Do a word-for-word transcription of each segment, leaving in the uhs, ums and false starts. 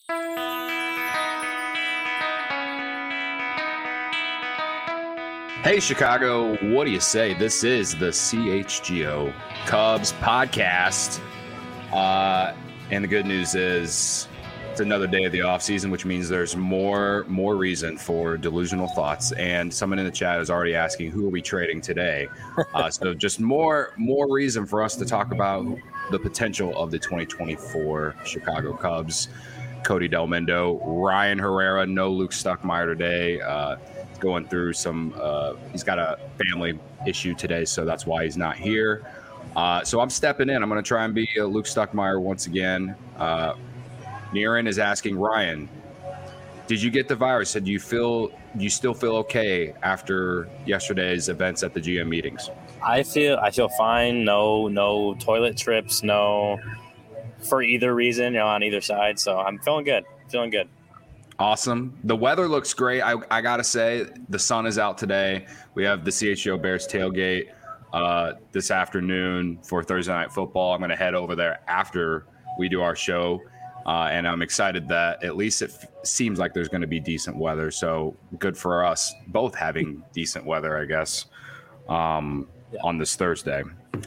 Hey, Chicago, what do you say? This is the C H G O Cubs podcast. Uh, and the good news is it's another day of the offseason, which means there's more more reason for delusional thoughts. And someone in the chat is already asking, who are we trading today? Uh, so just more more reason for us to talk about the potential of the twenty twenty-four Chicago Cubs. Cody Delmendo, Ryan Herrera, no Luke Stuckmeyer today. Uh, going through some uh he's got a family issue today, so that's why he's not here. Uh so I'm stepping in. I'm going to try and be uh, Luke Stuckmeyer once again. uh Niren is asking, Ryan, did you get the virus? Do you feel do you still feel okay after yesterday's events at the G M meetings? I feel I feel fine. No no toilet trips, no for either reason, you know, on either side. So I'm feeling good. Feeling good. Awesome. The weather looks great. I, I got to say, the sun is out today. We have the C H G O Bears tailgate uh, this afternoon for Thursday Night Football. I'm going to head over there after we do our show. Uh, and I'm excited that at least it f- seems like there's going to be decent weather. So good for us both having decent weather, I guess, um, yeah. on this Thursday.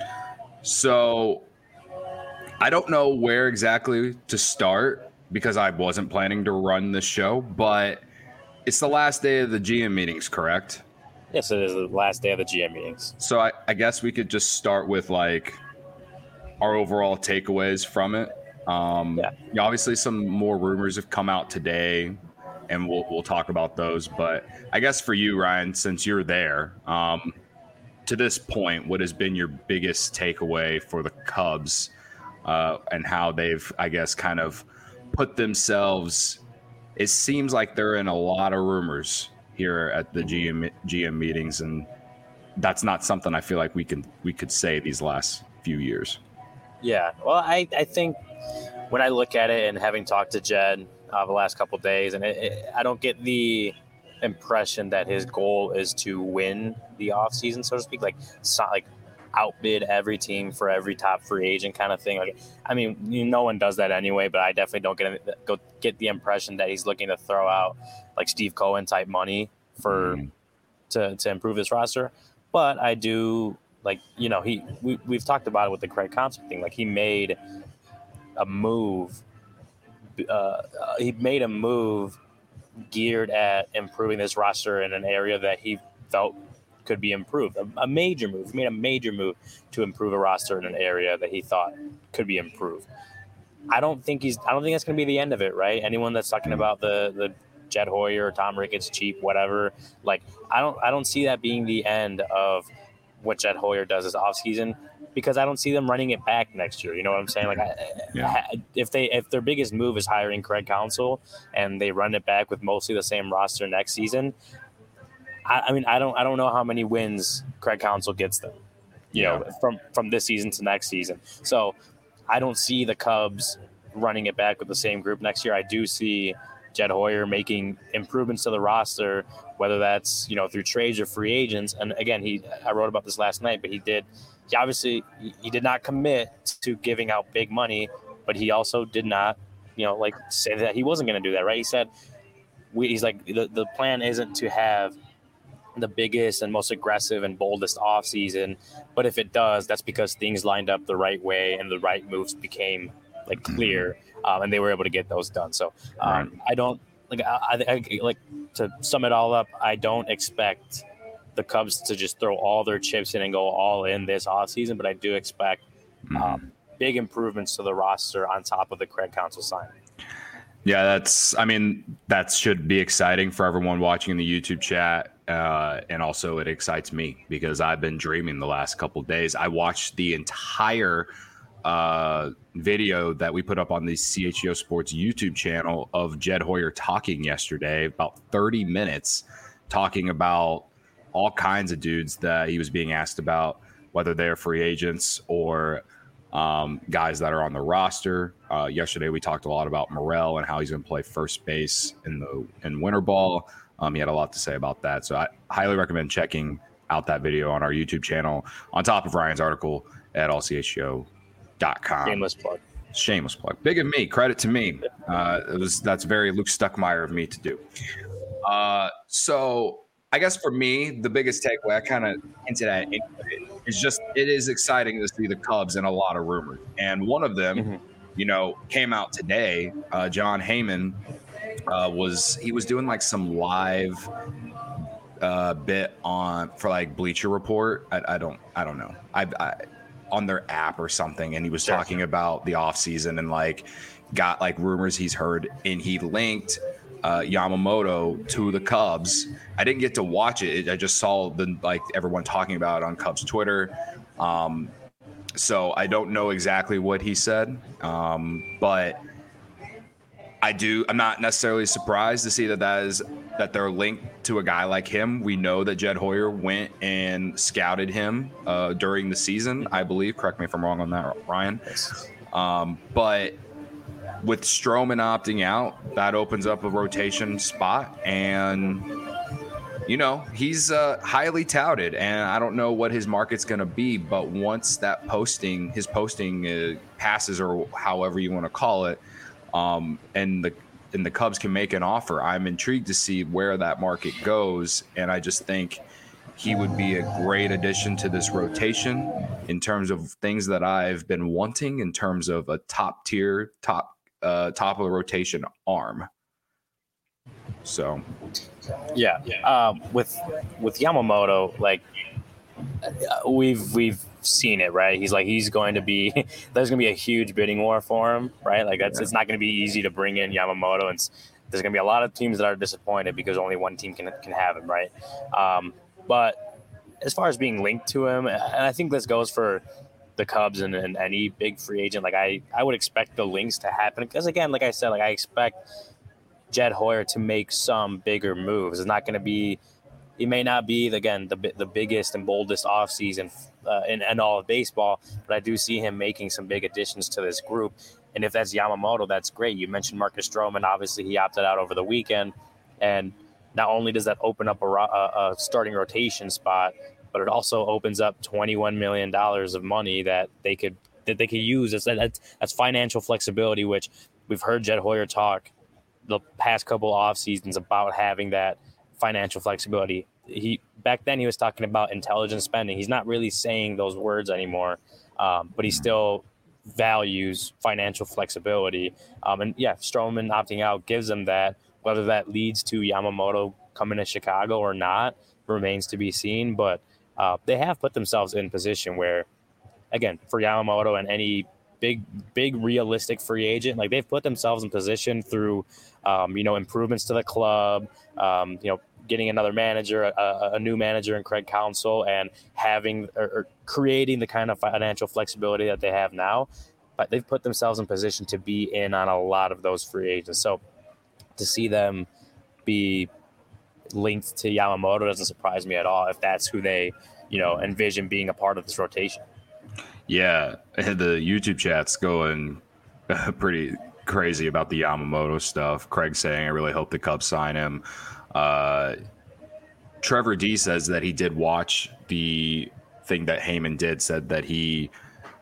So I don't know where exactly to start, because I wasn't planning to run this show, but it's the last day of the G M meetings, correct? Yes, it is the last day of the G M meetings. So I, I guess we could just start with like our overall takeaways from it. Um, yeah. Obviously, some more rumors have come out today, and we'll we'll talk about those. But I guess for you, Ryan, since you're there, um, to this point, what has been your biggest takeaway for the Cubs uh, and how they've, I guess, kind of put themselves, it seems like they're in a lot of rumors here at the G M, G M meetings, and that's not something I feel like we can we could say these last few years. Yeah, well, I, I think when I look at it, and having talked to Jed uh, the last couple of days, and it, it, I don't get the impression that his goal is to win the offseason, so to speak, like so, like outbid every team for every top free agent kind of thing. Like, I mean, you, no one does that anyway, but I definitely don't get go get the impression that he's looking to throw out like Steve Cohen type money for mm. to to improve this roster. But I do like, you know, he we we've talked about it with the Craig Counsell thing. Like, he made a move. Uh, he made a move geared at improving this roster in an area that he felt could be improved. A, a major move. He made a major move to improve a roster in an area that he thought could be improved. I don't think he's. I don't think that's going to be the end of it, right? Anyone that's talking about the the Jed Hoyer, Tom Ricketts, cheap, whatever. Like, I don't. I don't see that being the end of what Jed Hoyer does this offseason, because I don't see them running it back next year. You know what I'm saying? Like, I, yeah. if they if their biggest move is hiring Craig Counsell and they run it back with mostly the same roster next season. I mean, I don't, I don't know how many wins Craig Counsell gets them, you yeah. know, from, from this season to next season. So I don't see the Cubs running it back with the same group next year. I do see Jed Hoyer making improvements to the roster, whether that's, you know, through trades or free agents. And again, he, I wrote about this last night, but he did, he obviously, he did not commit to giving out big money, but he also did not, you know, like say that he wasn't going to do that, right? He said, we, he's like, the, the plan isn't to have the biggest and most aggressive and boldest offseason, but if it does, that's because things lined up the right way and the right moves became like clear, um, and they were able to get those done. So um, right. I don't like I, I like to sum it all up. I don't expect the Cubs to just throw all their chips in and go all in this offseason, but I do expect um, mm-hmm. big improvements to the roster on top of the Craig Counsell signing. Yeah, that's, I mean, that should be exciting for everyone watching in the YouTube chat. Uh, and also it excites me because I've been dreaming the last couple of days. I watched the entire uh, video that we put up on the C H G O Sports YouTube channel of Jed Hoyer talking yesterday, about thirty minutes, talking about all kinds of dudes that he was being asked about, whether they're free agents or um, guys that are on the roster. Uh, yesterday, we talked a lot about Morel and how he's going to play first base in the in winter ball. Um, he had a lot to say about that. So I highly recommend checking out that video on our YouTube channel on top of Ryan's article at all c h g o dot com. Shameless plug. Shameless plug. Big of me. Credit to me. Uh, it was that's very Luke Stuckmeyer of me to do. Uh, so I guess for me, the biggest takeaway I kind of hinted at is just it is exciting to see the Cubs in a lot of rumors, and one of them, mm-hmm. you know, came out today. Uh, Jon Heyman uh, was he was doing like some live uh, bit on for like Bleacher Report. I, I don't I don't know. I. I on their app or something, and he was talking about the offseason and like got like rumors he's heard, and he linked uh Yamamoto to the Cubs. I didn't get to watch it. I just saw the like everyone talking about it on Cubs Twitter. Um so I don't know exactly what he said, um but I do I'm not necessarily surprised to see that that is that they're linked to a guy like him. We know that Jed Hoyer went and scouted him uh, during the season, I believe. Correct me if I'm wrong on that, Ryan. Um, but with Stroman opting out, that opens up a rotation spot. And, you know, he's uh, highly touted. And I don't know what his market's going to be. But once that posting, his posting uh, passes, or however you want to call it, um, and the and the Cubs can make an offer, I'm intrigued to see where that market goes. And I just think he would be a great addition to this rotation in terms of things that I've been wanting in terms of a top tier, top, uh, top of the rotation arm. So, yeah, um, with, with Yamamoto, like we've, we've, seen it, right? He's like he's going to be there's going to be a huge bidding war for him, right? Like that's yeah. It's not going to be easy to bring in Yamamoto, and there's going to be a lot of teams that are disappointed because only one team can can have him, right? Um, but as far as being linked to him, and I think this goes for the Cubs and, and any big free agent, like I I would expect the links to happen because again, like I said, like I expect Jed Hoyer to make some bigger moves. It's not going to be He may not be, again, the the biggest and boldest offseason uh, in, in all of baseball, but I do see him making some big additions to this group. And if that's Yamamoto, that's great. You mentioned Marcus Stroman. Obviously, he opted out over the weekend. And not only does that open up a, a, a starting rotation spot, but it also opens up twenty-one million dollars of money that they could that they could use. That's, that's, that's financial flexibility, which we've heard Jed Hoyer talk the past couple off seasons about having that financial flexibility. He back then he was talking about intelligent spending. He's not really saying those words anymore, um, but he still values financial flexibility. Um, and yeah, Stroman opting out gives him that. Whether that leads to Yamamoto coming to Chicago or not remains to be seen. But uh, they have put themselves in position where, again, for Yamamoto and any big, big realistic free agent, like they've put themselves in position through, um, you know, improvements to the club, um, you know, getting another manager, a, a new manager in Craig Counsell, and having or, or creating the kind of financial flexibility that they have now. But they've put themselves in position to be in on a lot of those free agents. So to see them be linked to Yamamoto doesn't surprise me at all if that's who they, you know, envision being a part of this rotation. Yeah, the YouTube chat's going pretty crazy about the Yamamoto stuff. Craig saying, I really hope the Cubs sign him. Uh, Trevor D says that he did watch the thing that Heyman did, said that he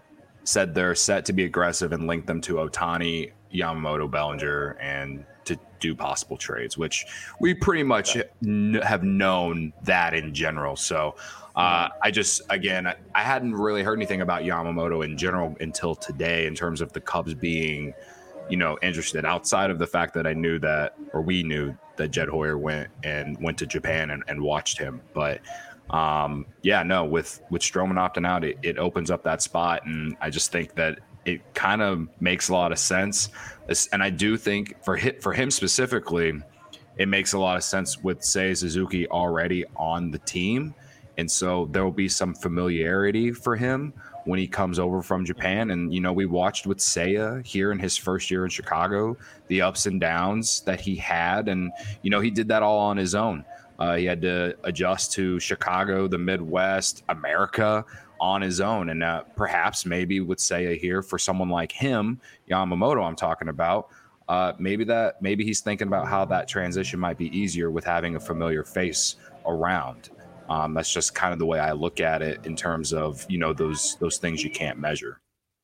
said they're set to be aggressive and link them to Ohtani, Yamamoto, Bellinger, and to do possible trades, which we pretty much n- have known that in general. So uh, I just, again, I, I hadn't really heard anything about Yamamoto in general until today in terms of the Cubs being, you know, interested, outside of the fact that I knew that, or we knew that Jed Hoyer went and went to Japan and, and watched him. But um, yeah, no, with, with Stroman opting out, it, it opens up that spot. And I just think that it kind of makes a lot of sense. And I do think for hit for him specifically, it makes a lot of sense with Seiya Suzuki already on the team. And so there will be some familiarity for him when he comes over from Japan. And, you know, we watched with Seiya here in his first year in Chicago, the ups and downs that he had. And, you know, he did that all on his own. Uh, he had to adjust to Chicago, the Midwest, America on his own. And uh, perhaps maybe with Seiya here, for someone like him, Yamamoto I'm talking about, uh, maybe that maybe he's thinking about how that transition might be easier with having a familiar face around. Um, that's just kind of the way I look at it in terms of, you know, those those things you can't measure.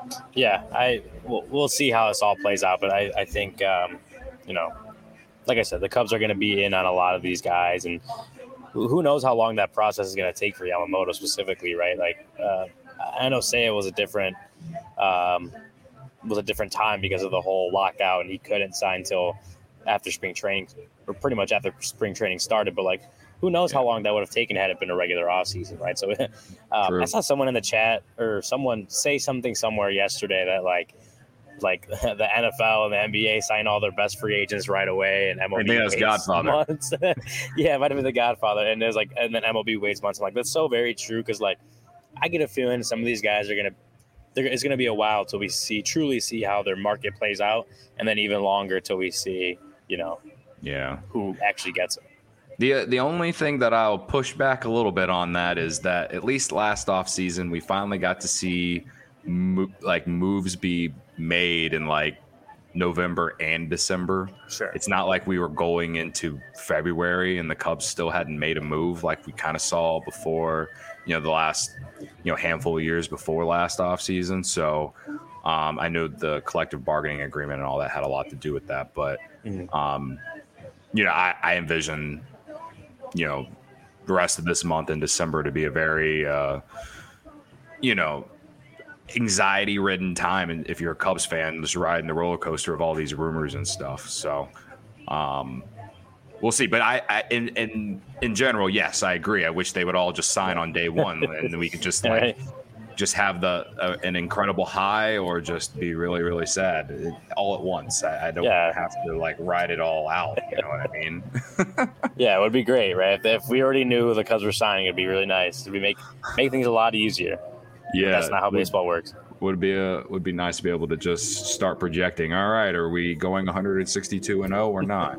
Yeah, I we'll, we'll see how this all plays out, but I I think um, you know, like I said, the Cubs are going to be in on a lot of these guys, and who who knows how long that process is going to take for Yamamoto specifically, right? Like uh, I know Seiya was a different um, was a different time because of the whole lockout, and he couldn't sign until after spring training, or pretty much after spring training started. But like, who knows how long that would have taken had it been a regular offseason, right? So um, I saw someone in the chat or someone say something somewhere yesterday that like, like the N F L and the N B A sign all their best free agents right away, and M L B I think that's Godfather. Months. Yeah, it might have been the Godfather, and there's like, and then M L B waits months. I'm like, that's so very true because like, I get a feeling some of these guys are gonna. There, it's going to be a while till we see truly see how their market plays out, and then even longer till we see, you know, yeah, who actually gets it. The the only thing that I'll push back a little bit on that is that at least last offseason we finally got to see mo- like moves be made in like November and December. Sure. It's not like we were going into February and the Cubs still hadn't made a move like we kind of saw before, you know, the last, you know, handful of years before last offseason. So um, I know the collective bargaining agreement and all that had a lot to do with that. But, mm-hmm. um, you know, I, I envision, you know, the rest of this month in December to be a very, uh, you know, anxiety-ridden time, and if you're a Cubs fan, just riding the roller coaster of all these rumors and stuff. So, um, we'll see. But I, I in, in in general, yes, I agree. I wish they would all just sign on day one, and then we could just like just have the uh, an incredible high, or just be really really sad all at once. I, I don't yeah. have to like ride it all out. You know what I mean? Yeah, it would be great, right? If, if we already knew the Cubs were signing, it'd be really nice. It'd be make make things a lot easier. Yeah, but that's not how baseball works. Would be a would be nice to be able to just start projecting. All right, are we going one sixty-two and oh or not?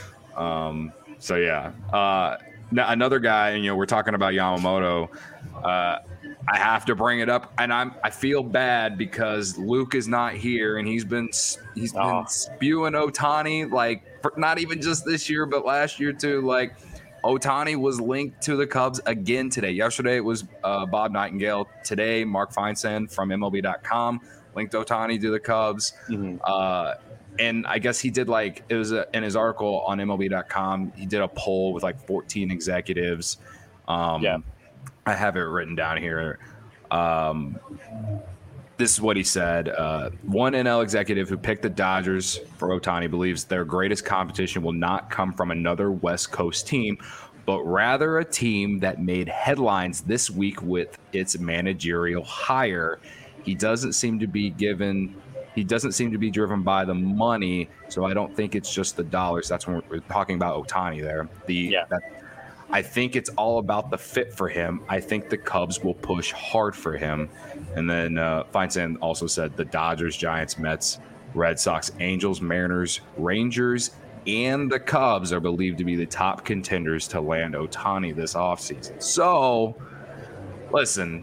um, so yeah, uh, another guy. You know, we're talking about Yamamoto. Uh, I have to bring it up, and I'm I feel bad because Luke is not here, and he's been he's been oh. spewing Ohtani like for, not even just this year, but last year too. Like, Ohtani was linked to the Cubs again today. Yesterday it was uh, Bob Nightingale. Today, Mark Feinsand from M L B dot com linked Ohtani to the Cubs. Mm-hmm. Uh, and I guess he did like it was a, in his article on M L B dot com. He did a poll with like fourteen executives. Um, yeah, I have it written down here. Um, this is what he said. Uh, one N L executive who picked the Dodgers for Ohtani believes their greatest competition will not come from another West Coast team, but rather a team that made headlines this week with its managerial hire. He doesn't seem to be given he doesn't seem to be driven by the money, so I don't think it's just the dollars. That's when we're talking about Ohtani there. The yeah. that, I think it's all about the fit for him. I think the Cubs will push hard for him. And then uh, Feinsand also said the Dodgers, Giants, Mets, Red Sox, Angels, Mariners, Rangers, and the Cubs are believed to be the top contenders to land Ohtani this offseason. So, listen,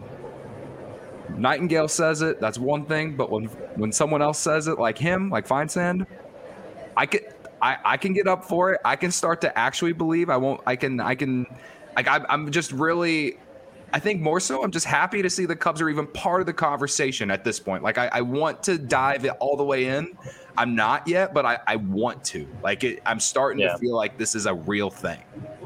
Nightingale says it, that's one thing. But when when someone else says it, like him, like Feinsand, I could... I, I can get up for it. I can start to actually believe. I won't. I can. I can. Like I, I'm just really. I think more so. I'm just happy to see the Cubs are even part of the conversation at this point. Like I, I want to dive it all the way in. I'm not yet, but I, I want to. Like it, I'm starting yeah. to feel like this is a real thing.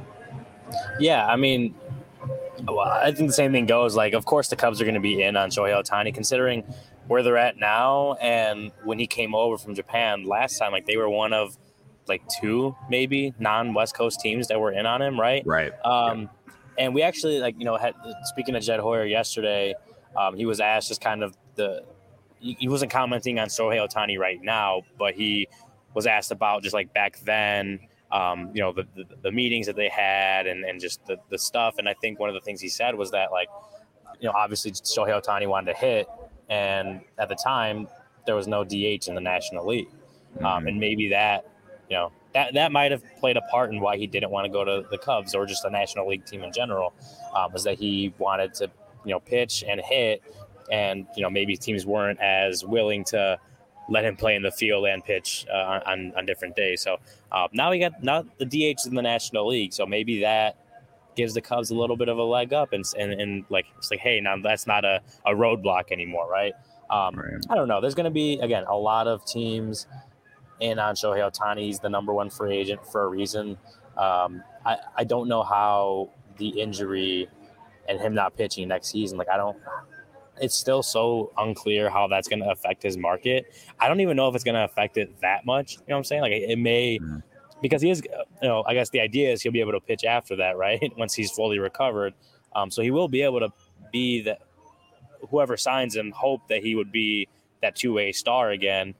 Yeah, I mean, well, I think the same thing goes. Like, of course, the Cubs are going to be in on Shohei Ohtani, considering where they're at now, and when he came over from Japan last time, like they were one of like two maybe non-West Coast teams that were in on him, right? Right. Um, yeah. And we actually, like, you know, had speaking to Jed Hoyer yesterday, um, he was asked just kind of the he, he wasn't commenting on Shohei Ohtani right now, but he was asked about just like back then, um, you know, the, the the meetings that they had and and just the the stuff. And I think one of the things he said was that, like, you know, obviously Shohei Ohtani wanted to hit, and at the time there was no D H in the National League, mm-hmm. um, and maybe that. You know, that, that might have played a part in why he didn't want to go to the Cubs or just the National League team in general, um, was that he wanted to, you know, pitch and hit, and, you know, maybe teams weren't as willing to let him play in the field and pitch uh, on, on different days. So uh, now we got now the D H in the National League, so maybe that gives the Cubs a little bit of a leg up, and and, and like it's like, hey, now that's not a, a roadblock anymore, right? Um, Right. I don't know. There's going to be, again, a lot of teams in on Shohei Ohtani. He's the number one free agent for a reason. Um, I, I don't know how the injury and him not pitching next season, like I don't – it's still so unclear how that's going to affect his market. I don't even know if it's going to affect it that much. You know what I'm saying? Like it, it may Mhm. – because he is – you know, I guess the idea is he'll be able to pitch after that, right, once he's fully recovered. Um, so he will be able to be the – whoever signs him hope that he would be that two-way star again.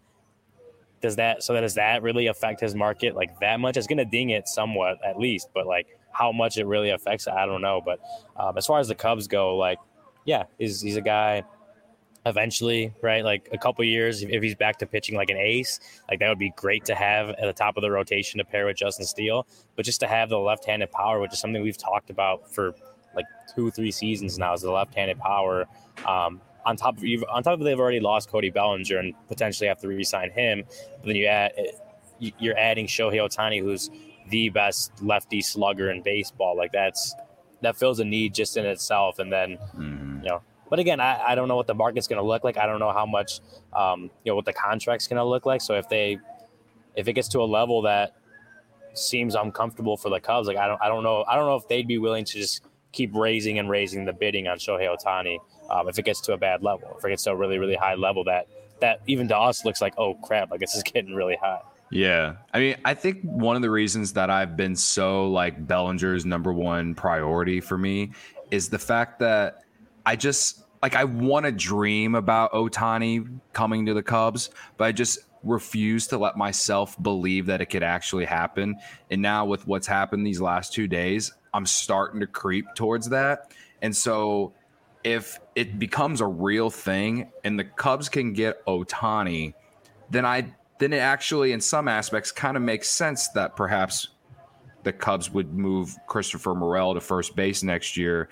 Does that – so that does that really affect his market like that much? It's going to ding it somewhat at least, but like how much it really affects it, I don't know. But um, as far as the Cubs go, like, yeah, he's, he's a guy eventually, right? Like a couple years, if he's back to pitching like an ace, like that would be great to have at the top of the rotation to pair with Justin Steele. But just to have the left-handed power, which is something we've talked about for like two, three seasons now, is the left-handed power. Um, on top of you've, on top of they've already lost Cody Bellinger and potentially have to re-sign him. But then you add you're adding Shohei Ohtani, who's the best lefty slugger in baseball. Like that's that fills a need just in itself. And then Mhm. you know. But again, I, I don't know what the market's going to look like. I don't know how much, um, you know, what the contract's going to look like. So if they, if it gets to a level that seems uncomfortable for the Cubs, like I don't, I don't know, I don't know if they'd be willing to just keep raising and raising the bidding on Shohei Ohtani. Um, if it gets to a bad level, if it gets to a really, really high level that that even to us looks like, oh crap, like this is getting really high. Yeah. I mean, I think one of the reasons that I've been so like Bellinger's number one priority for me is the fact that I just like I want to dream about Ohtani coming to the Cubs, but I just refuse to let myself believe that it could actually happen. And now with what's happened these last two days, I'm starting to creep towards that. And so if it becomes a real thing and the Cubs can get Ohtani, then I then it actually in some aspects kind of makes sense that perhaps the Cubs would move Christopher Morel to first base next year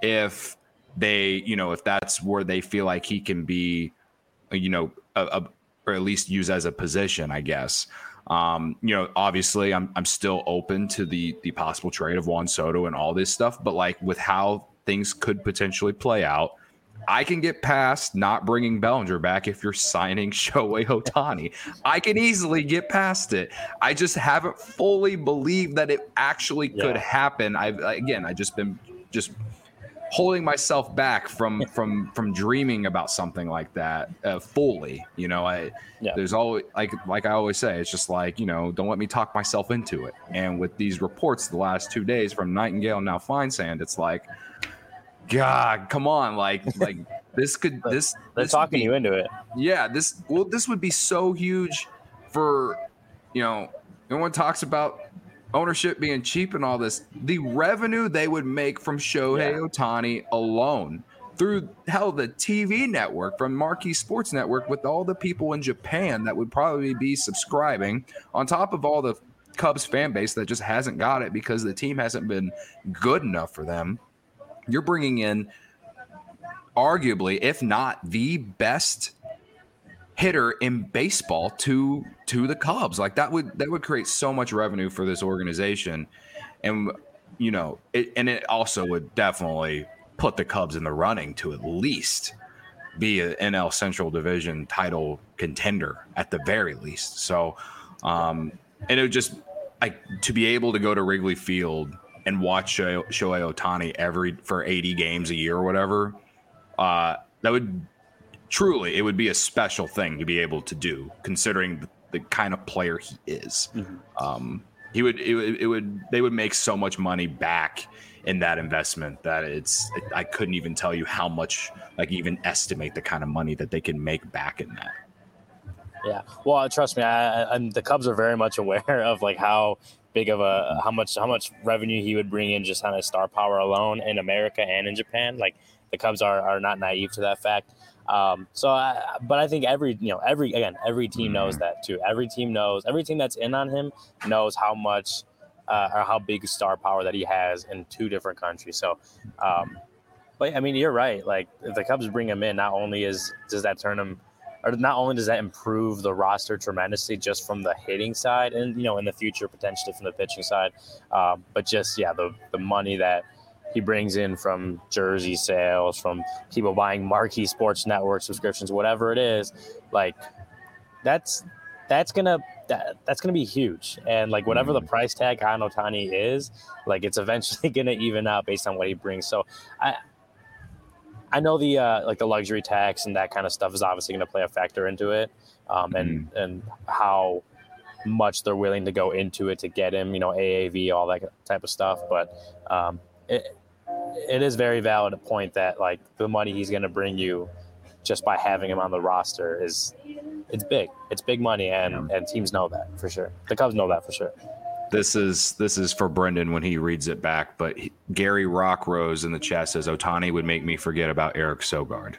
if they, you know, if that's where they feel like he can be, you know, a, a, or at least use as a position, I guess. Um, you know, obviously I'm I'm still open to the the possible trade of Juan Soto and all this stuff, but like with how things could potentially play out, I can get past not bringing Bellinger back if you're signing Shohei Ohtani. I can easily get past it. I just haven't fully believed that it actually could Yeah. happen. I've again, I just been just holding myself back from from from dreaming about something like that uh, fully. You know, I Yeah. there's always like like I always say, it's just like, you know, don't let me talk myself into it. And with these reports the last two days from Nightingale and now Feinsand, it's like, God, come on, like like this could this They're this talking would be, you into it. yeah, this well, this would be so huge for, you know, everyone talks about ownership being cheap and all this. The revenue they would make from Shohei Yeah. Ohtani alone through hell the T V network from Marquee Sports Network with all the people in Japan that would probably be subscribing on top of all the Cubs fan base that just hasn't got it because the team hasn't been good enough for them. You're bringing in arguably, if not the best hitter in baseball to to the Cubs. Like that would that would create so much revenue for this organization. And you know, it and it also would definitely put the Cubs in the running to at least be an N L Central Division title contender at the very least. So um and it would just like to be able to go to Wrigley Field and watch Shohei Ohtani every for eighty games a year or whatever, uh, that would truly, it would be a special thing to be able to do, considering the, the kind of player he is. Mm-hmm. Um, he would, it, would, it would, they would make so much money back in that investment that it's, it, I couldn't even tell you how much, like even estimate the kind of money that they can make back in that. Yeah. Well, trust me, I, I, the Cubs are very much aware of like how big of a how much how much revenue he would bring in just on his star power alone in America and in Japan. Like the Cubs are are not naive to that fact. Um, so, I, but I think every you know every again every team knows that too. Every team knows every team that's in on him knows how much uh, or how big star power that he has in two different countries. So, um, but I mean, you're right. Like if the Cubs bring him in, not only is does that turn him. Or not only does that improve the roster tremendously just from the hitting side and, you know, in the future, potentially from the pitching side, um, but just, yeah, the, the money that he brings in from jersey sales, from people buying marquee sports network subscriptions, whatever it is, like that's that's gonna that, that's gonna be huge. And like whatever the price tag on Ohtani is, like it's eventually gonna even out based on what he brings. So I I know the uh, like the luxury tax and that kind of stuff is obviously gonna play a factor into it, um, and mm. and how much they're willing to go into it to get him, you know, A A V, all that type of stuff. But um, it it is very valid a point that like the money he's going to bring you just by having him on the roster is it's big. It's big money, and, yeah. and teams know that for sure. The Cubs know that for sure. This is this is for Brendan when he reads it back. But he, Gary Rockrose in the chat says Ohtani would make me forget about Eric Sogard.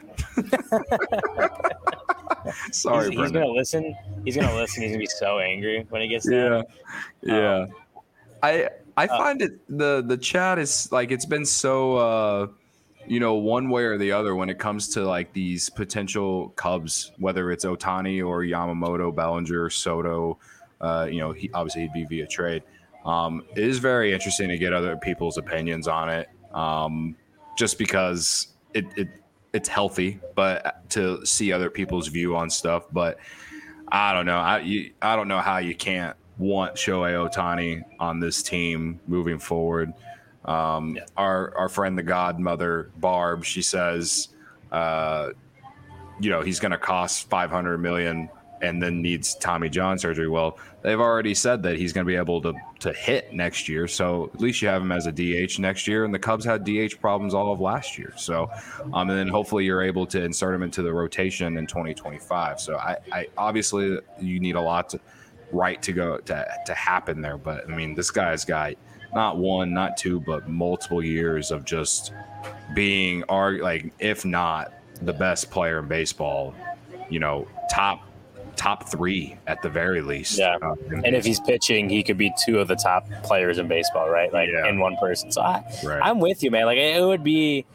Sorry, he's, he's gonna listen. He's gonna listen. He's gonna be so angry when he gets there. Yeah, yeah. Um, I I uh, find it the the chat is like it's been so uh, you know, one way or the other when it comes to like these potential Cubs, whether it's Ohtani or Yamamoto, Bellinger, Soto. Uh, you know, he obviously he'd be via trade. Um, it is very interesting to get other people's opinions on it, um, just because it, it it's healthy, but to see other people's view on stuff. But I don't know. I you, I don't know how you can't want Shohei Ohtani on this team moving forward. Um, yeah. Our our friend, the godmother Barb, she says, uh, you know, he's going to cost five hundred million dollars and then needs Tommy John surgery. Well, they've already said that he's going to be able to to hit next year. So at least you have him as a D H next year. And the Cubs had D H problems all of last year. So, um, and then hopefully you're able to insert him into the rotation in twenty twenty-five. So I, I obviously you need a lot to right to go to, to happen there. But I mean, this guy's got not one, not two, but multiple years of just being arg- like, if not the best player in baseball, you know, top, top three at the very least. Yeah. Uh, and if he's pitching, he could be two of the top players in baseball, right? Like yeah. in one person. So I, right. I'm with you, man. Like it would be,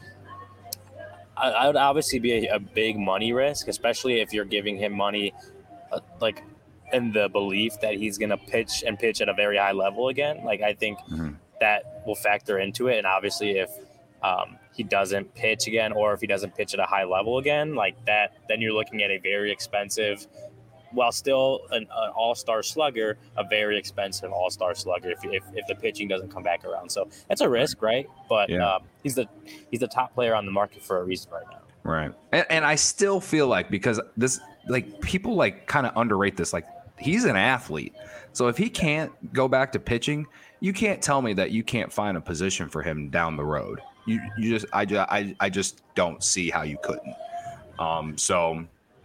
I, I would obviously be a, a big money risk, especially if you're giving him money, uh, like in the belief that he's going to pitch and pitch at a very high level again. Like I think mm-hmm. that will factor into it. And obviously if um, he doesn't pitch again, or if he doesn't pitch at a high level again, like that, then you're looking at a very expensive, while still an, an all-star slugger, a very expensive all-star slugger if, if if the pitching doesn't come back around. So that's a risk, right? But yeah. um, he's the he's the top player on the market for a reason right now. Right. And, and I still feel like, because this, like, people like kind of underrate this, like he's an athlete. So if he can't go back to pitching, you can't tell me that you can't find a position for him down the road. You you just I just I, I just don't see how you couldn't. Um. So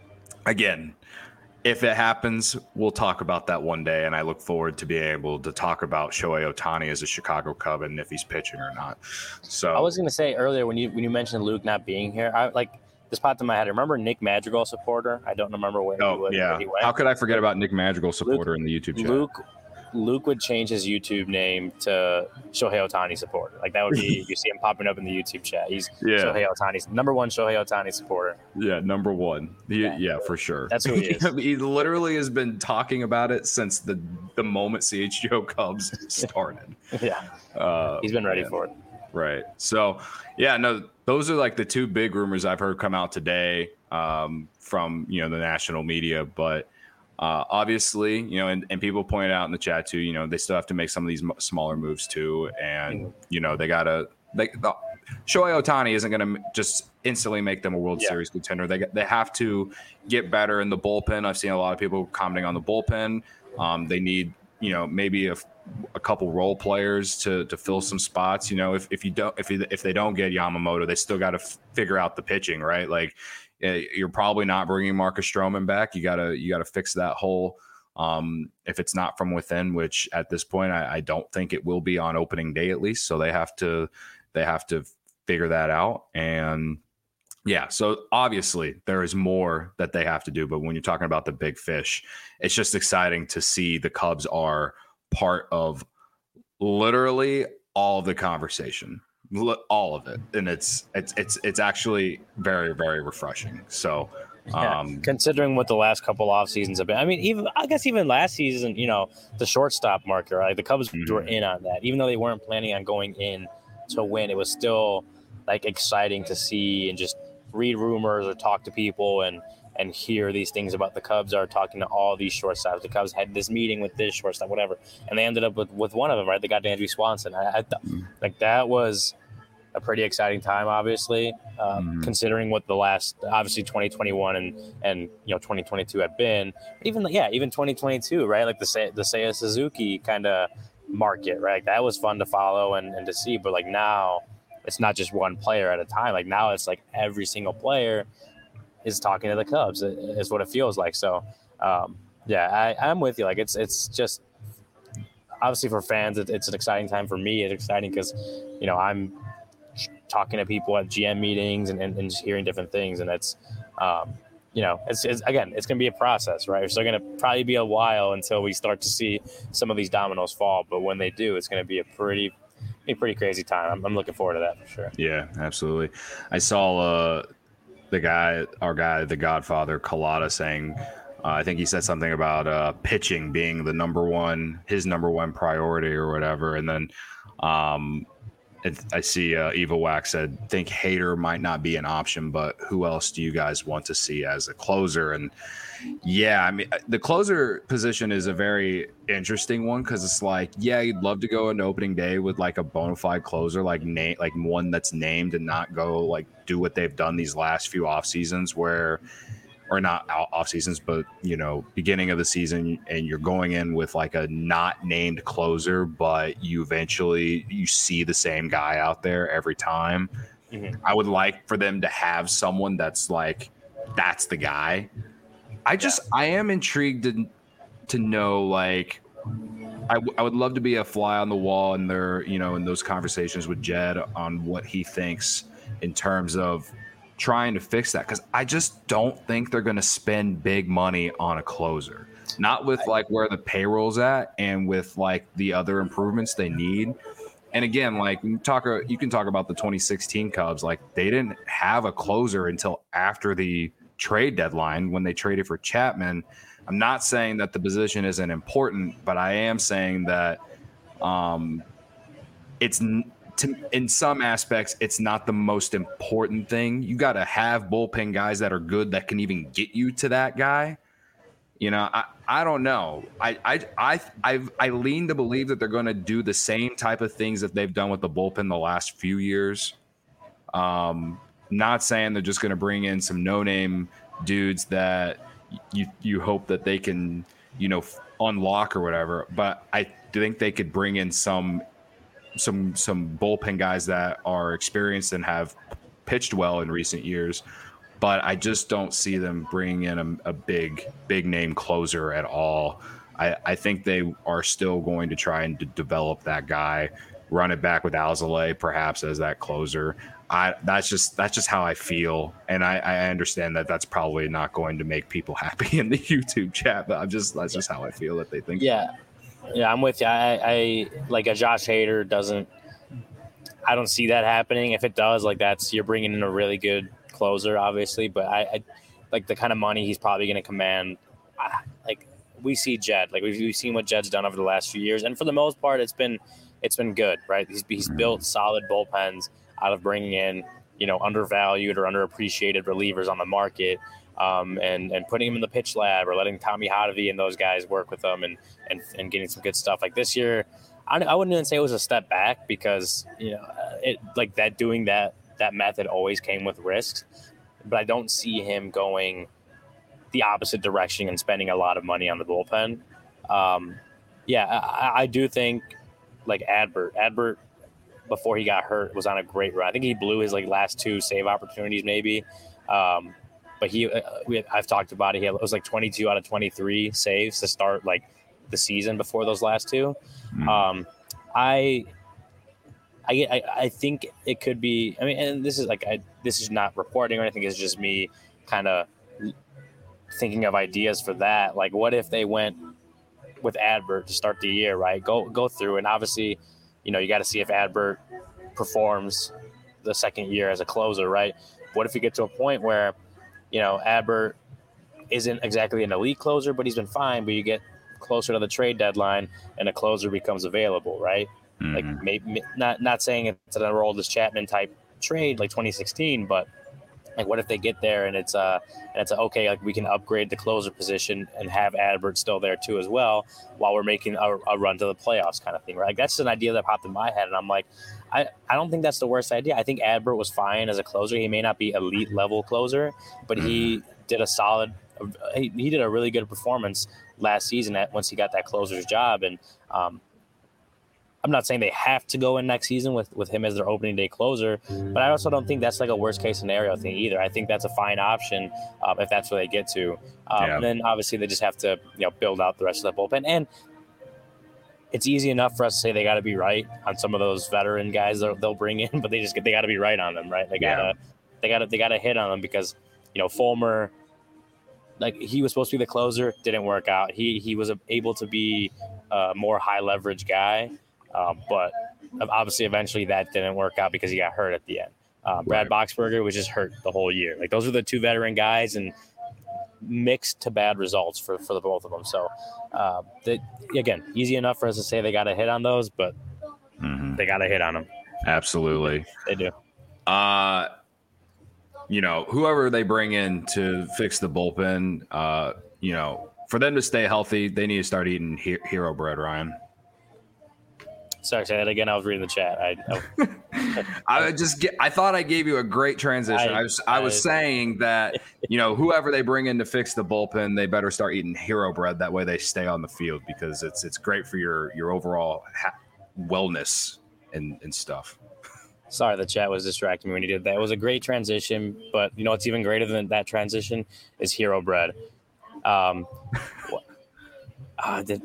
again, if it happens, we'll talk about that one day, and I look forward to being able to talk about Shohei Ohtani as a Chicago Cub and if he's pitching or not. So I was going to say earlier when you when you mentioned Luke not being here, I like this popped in my head. Remember Nick Madrigal supporter? I don't remember where. Oh he was, yeah, where he went. How could I forget about Nick Madrigal supporter Luke, in the YouTube chat? Luke Luke would change his YouTube name to Shohei Ohtani supporter. Like that would be, you see him popping up in the YouTube chat. He's yeah. Shohei Ohtani's number one Shohei Ohtani supporter. Yeah, number one. He, yeah. yeah, for sure. That's who he is. He literally has been talking about it since the, the moment C H G O Cubs started. yeah. Uh, He's been ready yeah. for it. Right. So, yeah, no, those are like the two big rumors I've heard come out today um, from, you know, the national media. But Uh, obviously, you know, and, and people point out in the chat too, you know, they still have to make some of these m- smaller moves too. And, you know, they got to, they, the, Shohei Ohtani isn't going to just instantly make them a World yeah. Series contender. They they have to get better in the bullpen. I've seen a lot of people commenting on the bullpen. Um, they need, you know, maybe a, a couple role players to to fill some spots. You know, if, if you don't, if you, if they don't get Yamamoto, they still got to f- figure out the pitching, right? Like, you're probably not bringing Marcus Stroman back. You gotta you gotta fix that hole. Um, if it's not from within, which at this point I, I don't think it will be on opening day at least. So they have to they have to figure that out. And yeah, so obviously there is more that they have to do. But when you're talking about the big fish, it's just exciting to see the Cubs are part of literally all of the conversation. All of it, and it's it's it's it's actually very very refreshing. So, um, yeah, considering what the last couple off seasons have been, I mean, even I guess even last season, you know, the shortstop market, right? The Cubs mm-hmm. were in on that, even though they weren't planning on going in to win, it was still like exciting to see and just read rumors or talk to people and and hear these things about the Cubs are talking to all these shortstops. The Cubs had this meeting with this shortstop, whatever, and they ended up with, with one of them, right? They got Andrew Swanson. I, I th- like that was a pretty exciting time, obviously, um, mm-hmm. considering what the last, obviously twenty twenty-one and and you know twenty twenty-two had been. Even yeah, even twenty twenty-two, right? Like the the Seiya Suzuki kind of market, right? Like that was fun to follow and, and to see. But like now, it's not just one player at a time. Like now, it's like every single player is talking to the Cubs. Is what it feels like. So um, yeah, I, I'm with you. Like it's it's just obviously for fans, it, it's an exciting time. For me, it's exciting because you know I'm talking to people at G M meetings and, and, and just hearing different things. And it's, um, you know, it's, it's again, it's going to be a process, right? It's still going to probably be a while until we start to see some of these dominoes fall. But when they do, it's going to be a pretty, a pretty crazy time. I'm, I'm looking forward to that for sure. Yeah, absolutely. I saw uh, the guy, our guy, the Godfather, Collada saying, uh, I think he said something about uh, pitching being the number one, his number one priority or whatever. And then, um, I see uh, Eva Wax said, think Hader might not be an option, but who else do you guys want to see as a closer? And yeah, I mean, the closer position is a very interesting one because it's like, yeah, you'd love to go an opening day with like a bona fide closer, like name, like one that's named and not go like do what they've done these last few off seasons where, or not off seasons, but you know, beginning of the season, and you're going in with like a not named closer, but you eventually you see the same guy out there every time. Mm-hmm. I would like for them to have someone that's like, that's the guy. I just, yeah. I am intrigued to, to know, like, I, w- I would love to be a fly on the wall in their, you know, in those conversations with Jed on what he thinks in terms of trying to fix that, because I just don't think they're going to spend big money on a closer, not with like where the payroll's at and with like the other improvements they need. And again, like you talk, you can talk about the twenty sixteen Cubs, like they didn't have a closer until after the trade deadline when they traded for Chapman. I'm not saying that the position isn't important, but I am saying that um, it's To, in some aspects, it's not the most important thing. You got to have bullpen guys that are good that can even get you to that guy. You know, I, I don't know. I I I I've, I lean to believe that they're going to do the same type of things that they've done with the bullpen the last few years. Um, not saying they're just going to bring in some no-name dudes that you you hope that they can, you know, unlock or whatever. But I think they could bring in some. some some bullpen guys that are experienced and have pitched well in recent years, but I just don't see them bringing in a, a big big name closer at all. I, I think they are still going to try and d- develop that guy, run it back with Alzolay perhaps as that closer. I that's just that's just how I feel, and I, I understand that that's probably not going to make people happy in the YouTube chat, but I'm just that's just how I feel that they think. Yeah. Yeah, I'm with you. I, I like a Josh Hader doesn't. I don't see that happening. If it does, like that's you're bringing in a really good closer, obviously. But I, I like the kind of money he's probably going to command. I, like we see Jed, like we've, we've seen what Jed's done over the last few years, and for the most part, it's been it's been good, right? He's he's built solid bullpens out of bringing in you know undervalued or underappreciated relievers on the market. Um, and, and putting him in the pitch lab or letting Tommy Hotovy and those guys work with them and, and, and getting some good stuff. Like this year, I, I wouldn't even say it was a step back because, you know, it like that doing that, that method always came with risks, but I don't see him going the opposite direction and spending a lot of money on the bullpen. Um, yeah, I, I do think like Adbert, Adbert before he got hurt was on a great run. I think he blew his like last two save opportunities maybe. Um, But he, uh, we, I've talked about it. He had, it was like twenty-two out of twenty-three saves to start like the season before those last two. Mm. Um, I, I, I think it could be. I mean, and this is like I, this is not reporting or anything. It's just me kind of thinking of ideas for that. Like, what if they went with Adbert to start the year? Right, go go through, and obviously, you know, you got to see if Adbert performs the second year as a closer. Right. What if you get to a point where you know, Adbert isn't exactly an elite closer, but he's been fine. But you get closer to the trade deadline and a closer becomes available, right? Mm-hmm. Like maybe not not saying it's an Aroldis Chapman type trade like twenty sixteen, but like what if they get there and it's uh and it's a, okay, like we can upgrade the closer position and have Adbert still there too as well while we're making a, a run to the playoffs kind of thing, right? Like that's an idea that popped in my head, and I'm like, I, I don't think that's the worst idea. I think Adbert was fine as a closer. He may not be elite level closer, but he did a solid. He, he did a really good performance last season at once he got that closer's job, and um, I'm not saying they have to go in next season with, with him as their opening day closer, but I also don't think that's like a worst case scenario thing either. I think that's a fine option um, if that's where they get to. Um, Yeah. And then obviously they just have to you know build out the rest of the bullpen. And it's easy enough for us to say they got to be right on some of those veteran guys they'll, they'll bring in, but they just they got to be right on them, right? They gotta Yeah. they gotta they gotta hit on them because you know Fulmer, like he was supposed to be the closer, didn't work out. He he was able to be a more high leverage guy. Um, but obviously, eventually that didn't work out because he got hurt at the end. Uh, Brad Right. Boxberger was just hurt the whole year. Like those are the two veteran guys, and mixed to bad results for, for the both of them. So, uh, they, again, easy enough for us to say they got to hit on those, but Mm-hmm. they got to hit on them. Absolutely. They do. Uh, you know, whoever they bring in to fix the bullpen, uh, you know, for them to stay healthy, they need to start eating he- hero bread, Ryan. Sorry, say that again. I was reading the chat. I, I I just get, I thought I gave you a great transition. I, I- was I was I- saying that, you know, whoever they bring in to fix the bullpen, they better start eating hero bread. That way they stay on the field because it's it's great for your your overall ha- wellness and, and stuff. Sorry, the chat was distracting me when you did that. It was a great transition, but you know what's even greater than that transition is hero bread. Um, wh- uh, did,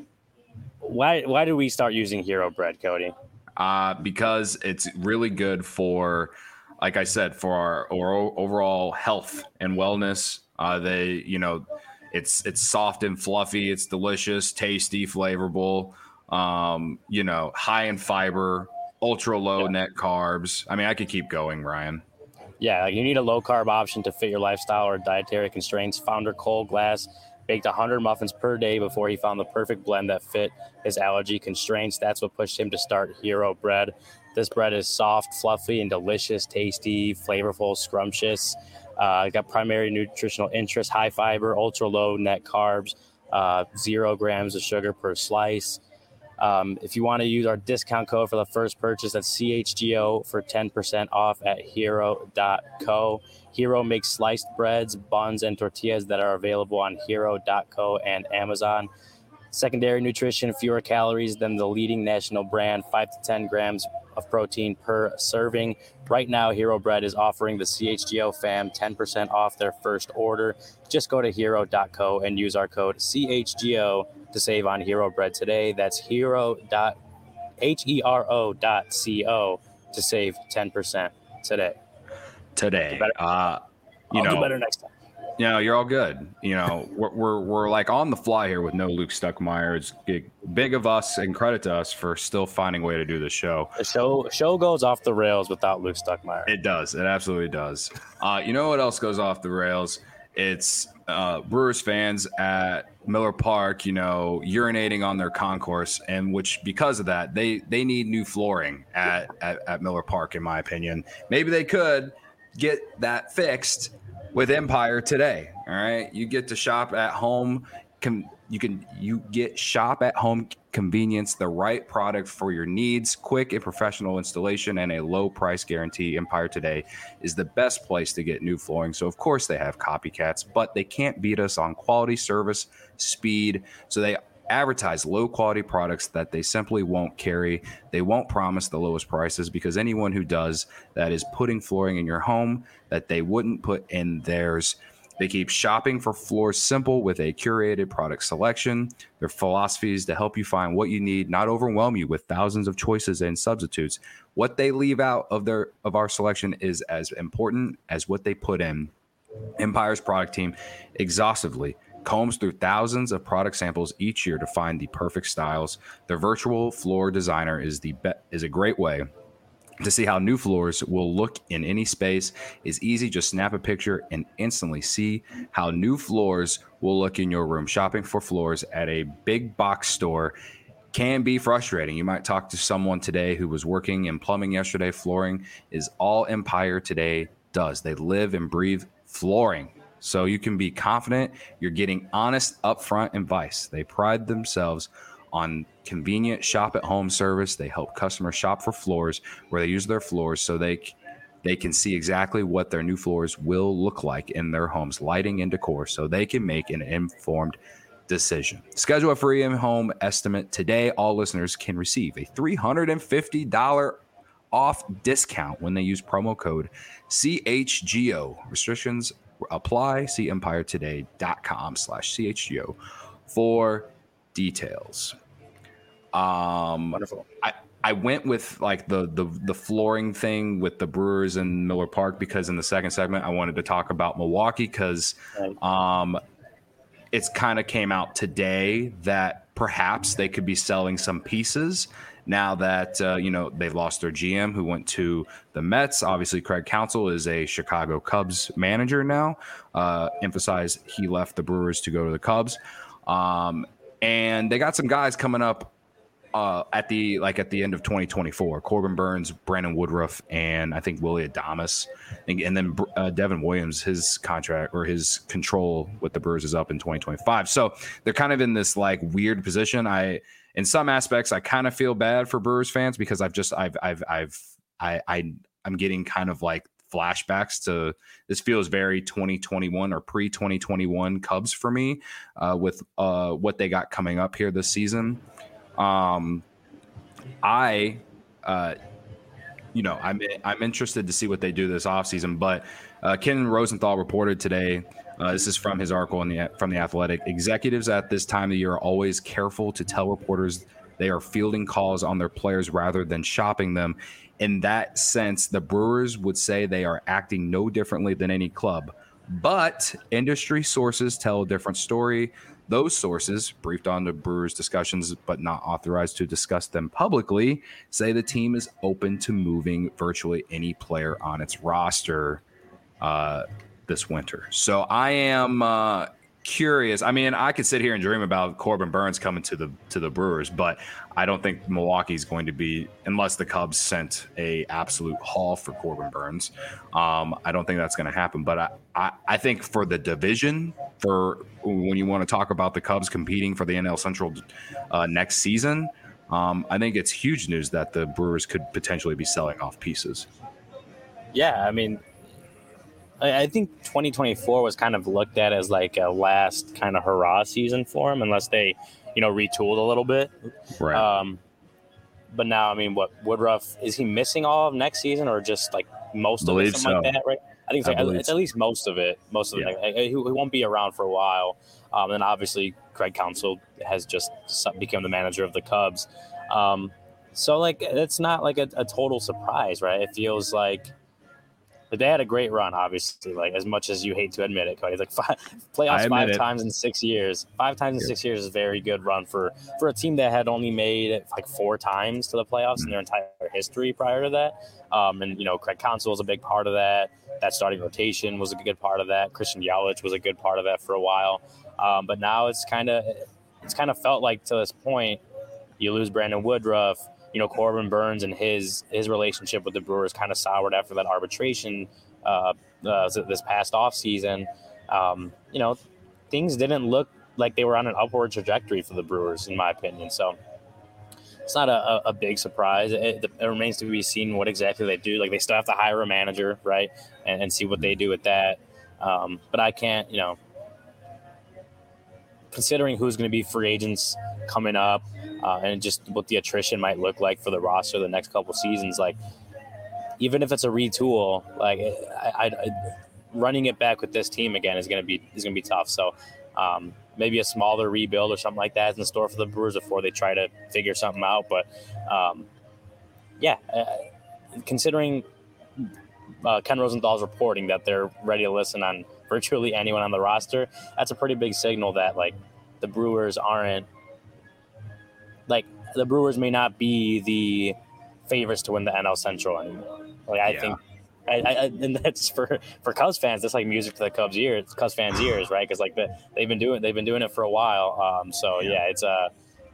why why did we start using hero bread, Cody? Uh, because it's really good for, like I said, for our, our overall health and wellness. Uh, they, you know, it's it's soft and fluffy. It's delicious, tasty, flavorful. Um, you know, high in fiber, ultra low Yeah. net carbs. I mean, I could keep going, Ryan. Yeah, like you need a low carb option to fit your lifestyle or dietary constraints. Founder Cole Glass baked one hundred muffins per day before he found the perfect blend that fit his allergy constraints. That's what pushed him to start Hero Bread. This bread is soft, fluffy, and delicious, tasty, flavorful, scrumptious. Uh, got primary nutritional interest, high fiber, ultra low net carbs, uh, zero grams of sugar per slice. Um, if you want to use our discount code for the first purchase, that's C H G O for ten percent off at hero dot co. Hero makes sliced breads, buns, and tortillas that are available on hero dot co and Amazon. Secondary nutrition, fewer calories than the leading national brand, five to ten grams of protein per serving. Right now, Hero Bread is offering the C H G O fam ten percent off their first order. Just go to hero dot co and use our code C H G O to save on Hero Bread today. That's hero dot H E R O dot C O to save ten percent today. Today, better. uh, you I'll know, do better next time. you know, you're all good. You know, we're, we're we're like on the fly here with no Luke Stuckmeyer. It's big, big of us, and credit to us for still finding a way to do this show. The show show goes off the rails without Luke Stuckmeyer. It does. It absolutely does. Uh, you know what else goes off the rails? It's uh, Brewers fans at Miller Park, you know, urinating on their concourse, and which because of that, they they need new flooring at, at, at Miller Park, in my opinion. Maybe they could get that fixed with Empire today. All right. You get to shop at home. Com- you can you get shop at home convenience, the right product for your needs, quick and professional installation, and a low price guarantee. Empire Today is the best place to get new flooring. So of course they have copycats, but they can't beat us on quality, service, speed. So they advertise low quality products that they simply won't carry. They won't promise the lowest prices because anyone who does that is putting flooring in your home that they wouldn't put in theirs. They keep shopping for floors simple with a curated product selection. Their philosophy is to help you find what you need, not overwhelm you with thousands of choices and substitutes. What they leave out of their of our selection is as important as what they put in. Empire's product team exhaustively combs through thousands of product samples each year to find the perfect styles. Their virtual floor designer is the be- is a great way to see how new floors will look in any space. Is easy. Just snap a picture and instantly see how new floors will look in your room. Shopping for floors at a big box store can be frustrating. You might talk to someone today who was working in plumbing yesterday. Flooring is all Empire today does. They live and breathe flooring. So you can be confident you're getting honest, upfront advice. They pride themselves on convenient shop-at-home service. They help customers shop for floors where they use their floors so they they can see exactly what their new floors will look like in their homes, lighting and decor, so they can make an informed decision. Schedule a free in-home estimate today. All listeners can receive a three hundred fifty dollars off discount when they use promo code C H G O. Restrictions apply. See empiretoday.com slash CHGO for details. Um, Wonderful. I, I went with like the, the the flooring thing with the Brewers and Miller Park because in the second segment I wanted to talk about Milwaukee because um, it's kind of came out today that perhaps they could be selling some pieces now that uh, you know they've lost their G M who went to the Mets. Obviously, Craig Counsell is a Chicago Cubs manager now. Uh, emphasize he left the Brewers to go to the Cubs, um, and they got some guys coming up. Uh, at the like at the end of twenty twenty-four, Corbin Burns, Brandon Woodruff, and I think Willie Adames, and, and then uh, Devin Williams, his contract or his control with the Brewers is up in twenty twenty-five. So they're kind of in this like weird position. I, in some aspects, I kind of feel bad for Brewers fans because I've just I've I've I've I, I I'm getting kind of like flashbacks to this feels very twenty twenty-one or pre twenty twenty-one Cubs for me uh, with uh, what they got coming up here this season. Um, I, uh, you know, I'm I'm interested to see what they do this offseason. But uh, Ken Rosenthal reported today. Uh, this is from his article in the from the Athletic. Executives at this time of the year are always careful to tell reporters they are fielding calls on their players rather than shopping them. In that sense, the Brewers would say they are acting no differently than any club. But industry sources tell a different story. Those sources, briefed on the Brewers' discussions but not authorized to discuss them publicly, say the team is open to moving virtually any player on its roster uh, this winter. So I am uh, curious. I mean, I could sit here and dream about Corbin Burns coming to the to the Brewers, but I don't think Milwaukee's going to be, unless the Cubs sent a absolute haul for Corbin Burns. Um, I don't think that's going to happen. But I, I, I think for the division, for when you want to talk about the Cubs competing for the N L Central uh, next season, um, I think it's huge news that the Brewers could potentially be selling off pieces. Yeah, I mean, I think twenty twenty-four was kind of looked at as like a last kind of hurrah season for them, unless they, you know, retooled a little bit. Right. Um, but now, I mean, what Woodruff, is he missing all of next season or just like most of it, something so. like that, right? I think it's, I like, it's at least most of it. Most of yeah. it. Like, he, he won't be around for a while. Um, and obviously, Craig Counsell has just become the manager of the Cubs. Um, so, like, it's not like a, a total surprise, right? It feels like. But they had a great run, obviously, like as much as you hate to admit it, Cody. Like five, playoffs five it. times in six years. Five times in yeah. six years is a very good run for, for a team that had only made it like four times to the playoffs mm-hmm. in their entire history prior to that. Um, and, you know, Craig Counsell was a big part of that. That starting rotation was a good part of that. Christian Yelich was a good part of that for a while. Um, but now it's kind of it's kind of felt like to this point, you lose Brandon Woodruff. You know, Corbin Burns and his his relationship with the Brewers kind of soured after that arbitration uh, uh, this past offseason. Um, you know, things didn't look like they were on an upward trajectory for the Brewers, in my opinion. So it's not a, a big surprise. It, it remains to be seen what exactly they do. Like, they still have to hire a manager, right, and, and see what they do with that. Um, but I can't, you know, considering who's going to be free agents coming up uh, and just what the attrition might look like for the roster the next couple seasons, like even if it's a retool, like I, I, I, running it back with this team again is going to be is going to be tough. So um, maybe a smaller rebuild or something like that is in store for the Brewers before they try to figure something out. But um, yeah, uh, considering uh, Ken Rosenthal's reporting that they're ready to listen on virtually anyone on the roster, that's a pretty big signal that like the Brewers aren't like the Brewers may not be the favorites to win the N L Central anymore. Like I yeah. think, I, I, and that's for, for Cubs fans. That's like music to the Cubs ears, Cubs fans' ears, right? Because like the, they've been doing they've been doing it for a while. Um, so yeah, yeah it's a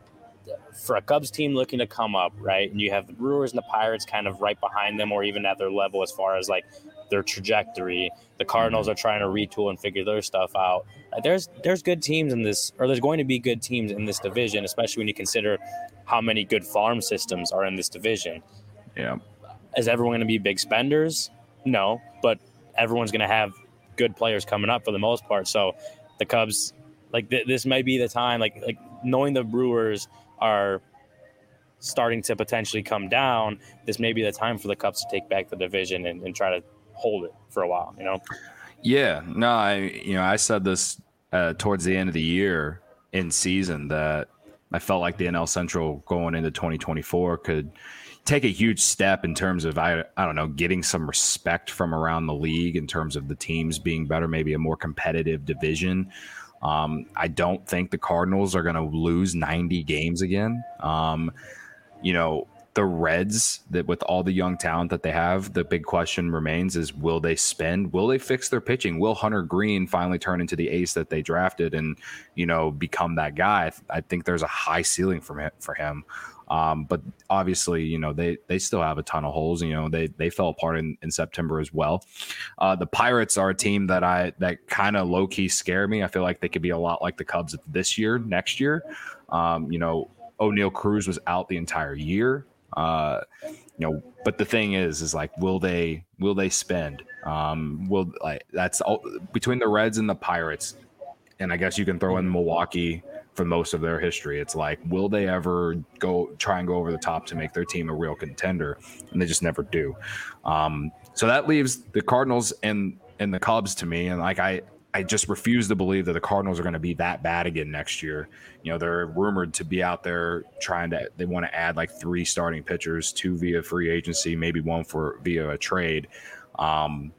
for a Cubs team looking to come up, right, and you have the Brewers and the Pirates kind of right behind them or even at their level as far as, like, their trajectory. The Cardinals are trying to retool and figure their stuff out. There's there's good teams in this, or there's going to be good teams in this division, especially when you consider how many good farm systems are in this division. Yeah. Is everyone going to be big spenders? No, but everyone's going to have good players coming up for the most part. So the Cubs, like th- this might be the time, like like knowing the Brewers are starting to potentially come down, this may be the time for the Cubs to take back the division and, and try to hold it for a while, you know? Yeah, no, I, you know, I said this uh, towards the end of the year in season that I felt like the N L Central going into twenty twenty-four could take a huge step in terms of, I, I don't know, getting some respect from around the league in terms of the teams being better, maybe a more competitive division. Um, I don't think the Cardinals are going to lose ninety games again. Um, you know, the Reds, that with all the young talent that they have, the big question remains is, will they spend? Will they fix their pitching? Will Hunter Green finally turn into the ace that they drafted and, you know, become that guy? I think there's a high ceiling for him. For him. Um, but obviously, you know, they they still have a ton of holes. You know, they they fell apart in, in September as well. Uh, the Pirates are a team that I that kind of low key scare me. I feel like they could be a lot like the Cubs this year, next year. Um, you know, O'Neal Cruz was out the entire year. Uh, you know, but the thing is, is like, will they will they spend? Um, will like that's all, between the Reds and the Pirates, and I guess you can throw in Milwaukee for most of their history. It's like, will they ever go try and go over the top to make their team a real contender? And they just never do. Um, so that leaves the Cardinals and and the Cubs to me, and like I. I just refuse to believe that the Cardinals are going to be that bad again next year. You know, they're rumored to be out there trying to, they want to add like three starting pitchers, two via free agency, maybe one for via a trade. Um,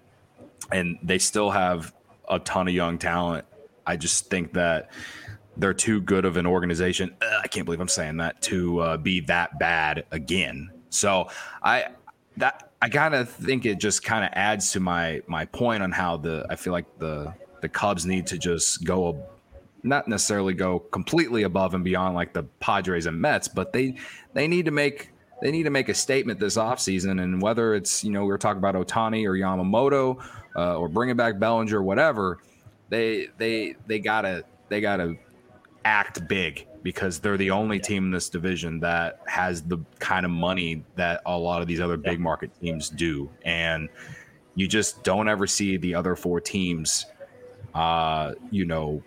and they still have a ton of young talent. I just think that they're too good of an organization. Ugh, I can't believe I'm saying that, to uh, be that bad again. So I, that, I kind of think it just kind of adds to my, my point on how the, I feel like the, the Cubs need to just go, not necessarily go completely above and beyond like the Padres and Mets, but they they need to make they need to make a statement this offseason. And whether it's, you know, we were talking about Ohtani or Yamamoto uh, or bringing back Bellinger, whatever, they they they gotta they gotta act big, because they're the only team in this division that has the kind of money that a lot of these other big market teams do, and you just don't ever see the other four teams Uh, you know,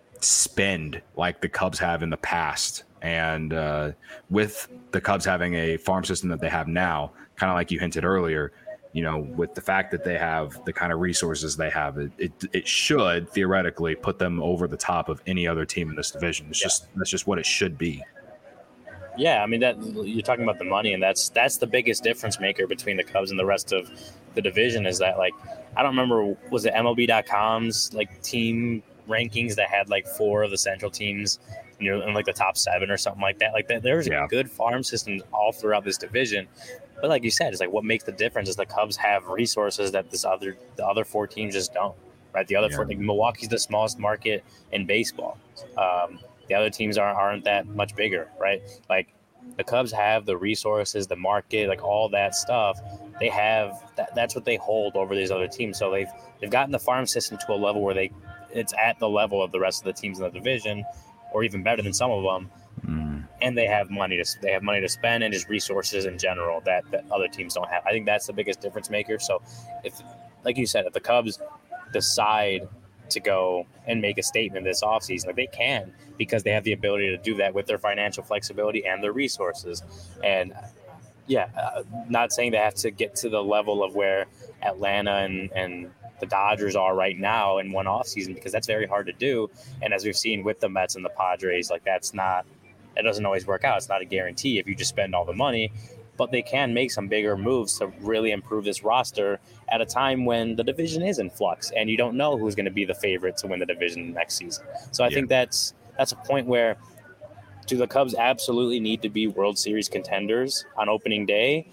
spend like the Cubs have in the past. And uh, with the Cubs having a farm system that they have now, kind of like you hinted earlier, you know, with the fact that they have the kind of resources they have, it it, it should theoretically put them over the top of any other team in this division. It's yeah. just that's just what it should be. Yeah, I mean, that you're talking about the money, and that's that's the biggest difference maker between the Cubs and the rest of the division. Is that, like, I don't remember, was it M L B dot com's like team rankings that had like four of the Central teams, you know, in like the top seven or something like that. Like that, there's yeah. good farm systems all throughout this division. But like you said, it's like what makes the difference is the Cubs have resources that this other the other four teams just don't. Right, the other yeah. four, like Milwaukee's the smallest market in baseball. Um, The other teams aren't aren't that much bigger, right? Like the Cubs have the resources, the market, like all that stuff. They have that, that's what they hold over these other teams. So they've they've gotten the farm system to a level where they it's at the level of the rest of the teams in the division, or even better than some of them. Mm. And they have money to they have money to spend and just resources in general that, that other teams don't have. I think that's the biggest difference maker. So if, like you said, if the Cubs decide to go and make a statement this offseason, like they can, because they have the ability to do that with their financial flexibility and their resources. And yeah, uh, not saying they have to get to the level of where Atlanta and, and the Dodgers are right now in one offseason, because that's very hard to do. And as we've seen with the Mets and the Padres, like that's not, it doesn't always work out. It's not a guarantee if you just spend all the money. But they can make some bigger moves to really improve this roster at a time when the division is in flux and you don't know who's going to be the favorite to win the division next season. So I yeah. think that's that's a point where, do the Cubs absolutely need to be World Series contenders on opening day?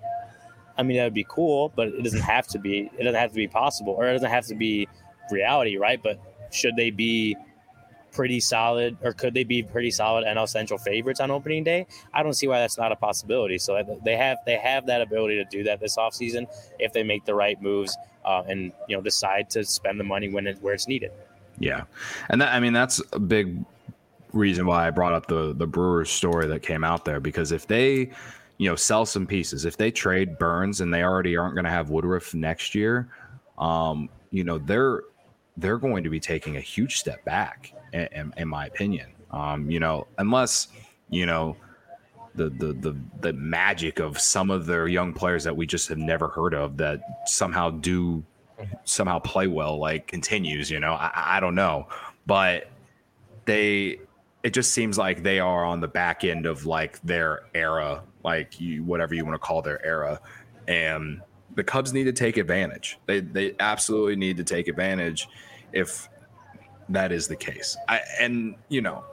I mean, that would be cool, but it doesn't have to be. It doesn't have to be possible, or it doesn't have to be reality, right? But should they be pretty solid, or could they be pretty solid N L Central favorites on opening day? I don't see why that's not a possibility. So they have they have that ability to do that this offseason if they make the right moves uh, and you know decide to spend the money when it where it's needed. Yeah, and that, I mean that's a big reason why I brought up the the Brewers story that came out there, because if they you know sell some pieces, if they trade Burns and they already aren't going to have Woodruff next year, um, you know they're they're going to be taking a huge step back. In, in my opinion, um, you know, unless, you know, the, the, the, the magic of some of their young players that we just have never heard of that somehow do somehow play well, like continues, you know, I, I don't know, but they, it just seems like they are on the back end of like their era, like you, whatever you want to call their era. And the Cubs need to take advantage. They, they absolutely need to take advantage if that is the case. I, and, you know,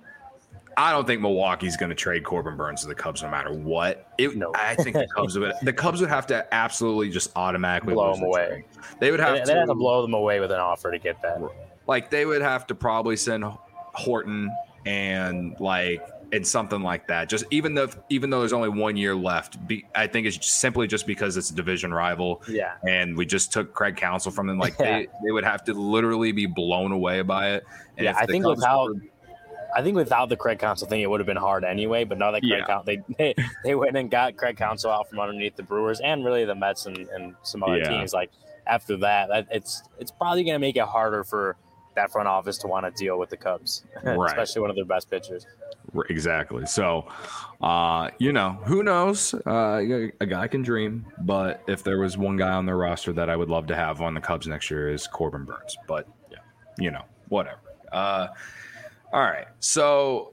I don't think Milwaukee's going to trade Corbin Burns to the Cubs no matter what. It, no. I think the Cubs would the Cubs would have to absolutely just automatically blow lose them away. Trade. They would have they, to, they'd have to blow them away with an offer to get that. Like they would have to probably send Horton and like and something like that. Just even though even though there's only one year left, be, I think it's simply just because it's a division rival. Yeah. And we just took Craig Counsell from them. Like yeah. they, they would have to literally be blown away by it. And yeah, I think Cubs without were, I think without the Craig Counsell thing, it would have been hard anyway. But now that Craig yeah. Counsell, they, they they went and got Craig Counsell out from underneath the Brewers and really the Mets and, and some other yeah. teams. Like after that, it's it's probably going to make it harder for that front office to want to deal with the Cubs, right. especially one of their best pitchers. Exactly. So, uh, you know, who knows? Uh, a guy can dream, but if there was one guy on their roster that I would love to have on the Cubs next year is Corbin Burns. But yeah, you know, whatever. Uh, all right. So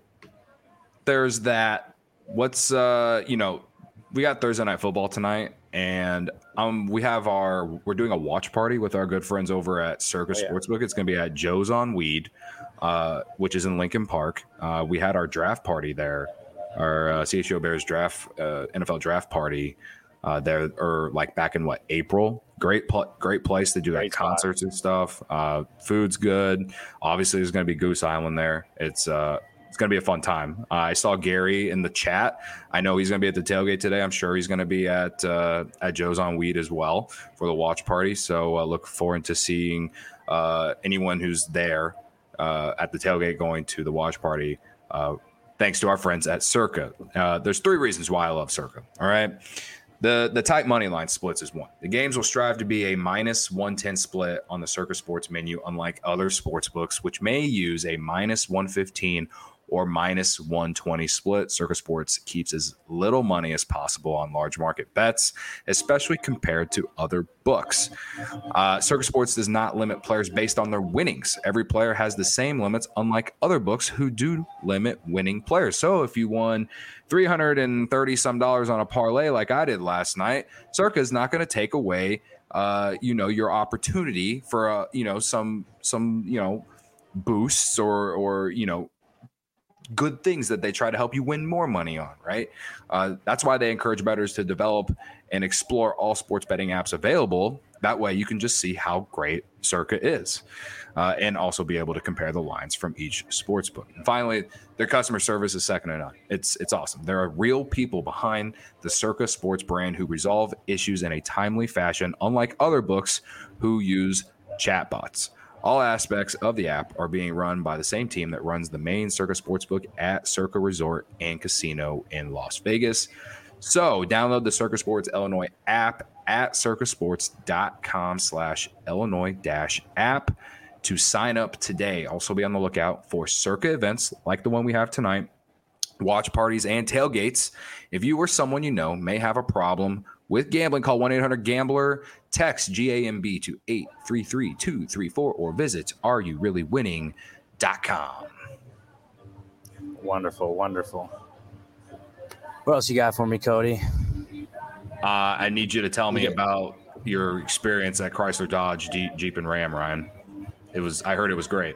there's that. What's uh, you know, we got Thursday Night Football tonight, and um, we have our we're doing a watch party with our good friends over at Circa oh, yeah. Sportsbook. It's going to be at Joe's on Weed, uh, which is in Lincoln Park. Uh, we had our draft party there, our uh, C H G O Bears draft uh, N F L draft party uh, there, or like back in what April. Great, pl- great place to do like concerts and stuff. Uh, food's good. Obviously, there's going to be Goose Island there. It's uh, It's going to be a fun time. Uh, I saw Gary in the chat. I know he's going to be at the tailgate today. I'm sure he's going to be at uh, at Joe's on Weed as well for the watch party. So uh, look forward to seeing uh, anyone who's there uh, at the tailgate going to the watch party. Uh, thanks to our friends at Circa. Uh, there's three reasons why I love Circa. All right. The the tight money line splits is one. The games will strive to be a minus one ten split on the Circa Sports menu, unlike other sports books, which may use a minus one fifteen or minus one twenty split. Circa Sports keeps as little money as possible on large market bets, especially compared to other books. Uh, Circa Sports does not limit players based on their winnings. Every player has the same limits, unlike other books who do limit winning players. So if you won three hundred thirty some dollars on a parlay like I did last night, Circa is not going to take away, uh, you know, your opportunity for, uh, you know, some, some, you know, boosts or, or, you know, good things that they try to help you win more money on, right? Uh, that's why they encourage bettors to develop and explore all sports betting apps available. That way you can just see how great Circa is uh, and also be able to compare the lines from each sports book. And finally, their customer service is second to none. It's, it's awesome. There are real people behind the Circa Sports brand who resolve issues in a timely fashion, unlike other books who use chatbots. All aspects of the app are being run by the same team that runs the main Circa Sportsbook at Circa Resort and Casino in Las Vegas. So download the Circa Sports Illinois app at circasports.com slash Illinois dash app to sign up today. Also be on the lookout for Circa events like the one we have tonight, watch parties, and tailgates. If you or someone you know may have a problem with gambling, call one eight hundred gambler, text G A M B to eight three three two three four, or visit are you really winning dot com. Wonderful, wonderful. What else you got for me, Cody? Uh, I need you to tell me yeah. about your experience at Chrysler Dodge Jeep, Jeep and Ram, Ryan. It was I heard it was great.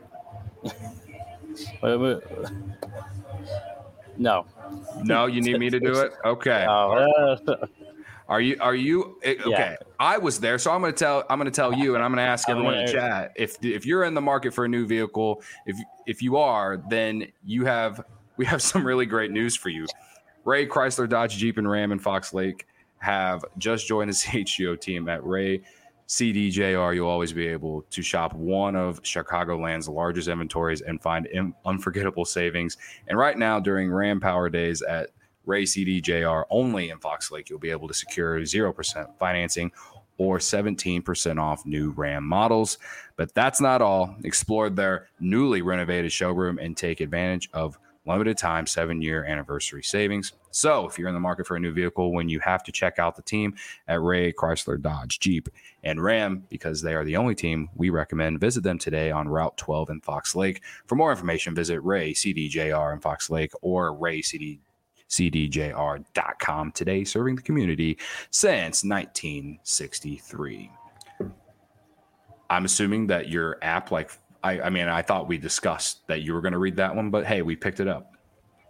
No. No, you need me to do it? Okay. Uh, Are you? Are you? Okay, Yeah. I was there, so I'm going to tell. I'm going to tell you, and I'm going to ask everyone in the chat if if you're in the market for a new vehicle. If if you are, then you have we have some really great news for you. Ray Chrysler Dodge Jeep and Ram in Fox Lake have just joined the C H G O team at Ray C D J R. You'll always be able to shop one of Chicagoland's largest inventories and find unforgettable savings. And right now, during Ram Power Days at Ray C D J R, only in Fox Lake, you'll be able to secure zero percent financing or seventeen percent off new Ram models. But that's not all. Explore their newly renovated showroom and take advantage of limited time seven-year anniversary savings. So if you're in the market for a new vehicle, when you have to check out the team at Ray Chrysler Dodge Jeep and Ram, because they are the only team we recommend, visit them today on Route twelve in Fox Lake. For more information, visit Ray C D J R in Fox Lake or ray c d j r dot com. Today, serving the community since nineteen sixty-three. I'm assuming that your app, like, I, I mean, I thought we discussed that you were going to read that one, but hey, we picked it up.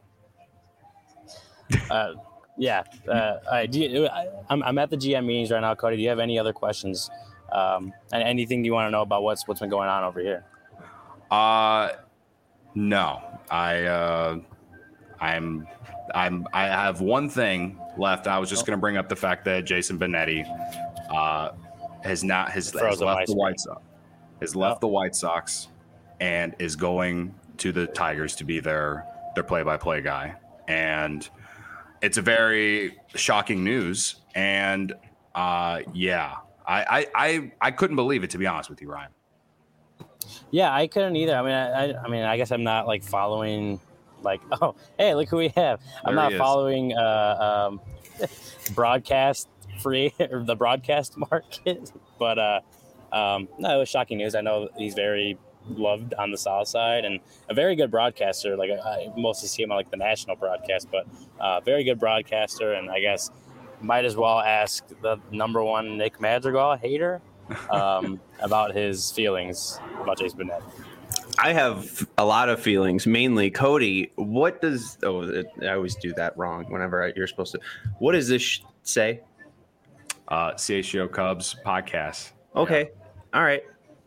uh, yeah. Uh, all right. Do you, I, I'm, I'm at the G M meetings right now, Cody. Do you have any other questions? Um, and anything you want to know about what's what's been going on over here? Uh, no. I uh, I'm I'm I have one thing left. I was just going to bring up the fact that Jason Benetti uh, has not has, has left the White Sox. Has left oh. the White Sox and is going to the Tigers to be their their play-by-play guy. And it's a very shocking news. And uh, yeah, I, I I I couldn't believe it, to be honest with you, Ryan. Yeah, I couldn't either. I mean, I, I mean, I guess I'm not like following, like, oh, hey, look who we have. I'm there not following uh, um, broadcast free or the broadcast market, but uh, um, no, it was shocking news. I know he's very loved on the South Side and a very good broadcaster. Like I mostly see him on like the national broadcast, but uh, very good broadcaster. And I guess might as well ask the number one Nick Madrigal hater um, about his feelings about Jason Benetti. I have a lot of feelings, mainly Cody. What does oh it, I always do that wrong whenever I, you're supposed to. What does this sh- say? Uh, C H G O Cubs podcast. Okay, yeah. All right.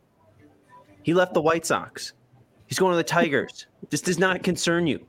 He left the White Sox. He's going to the Tigers. This does not concern you.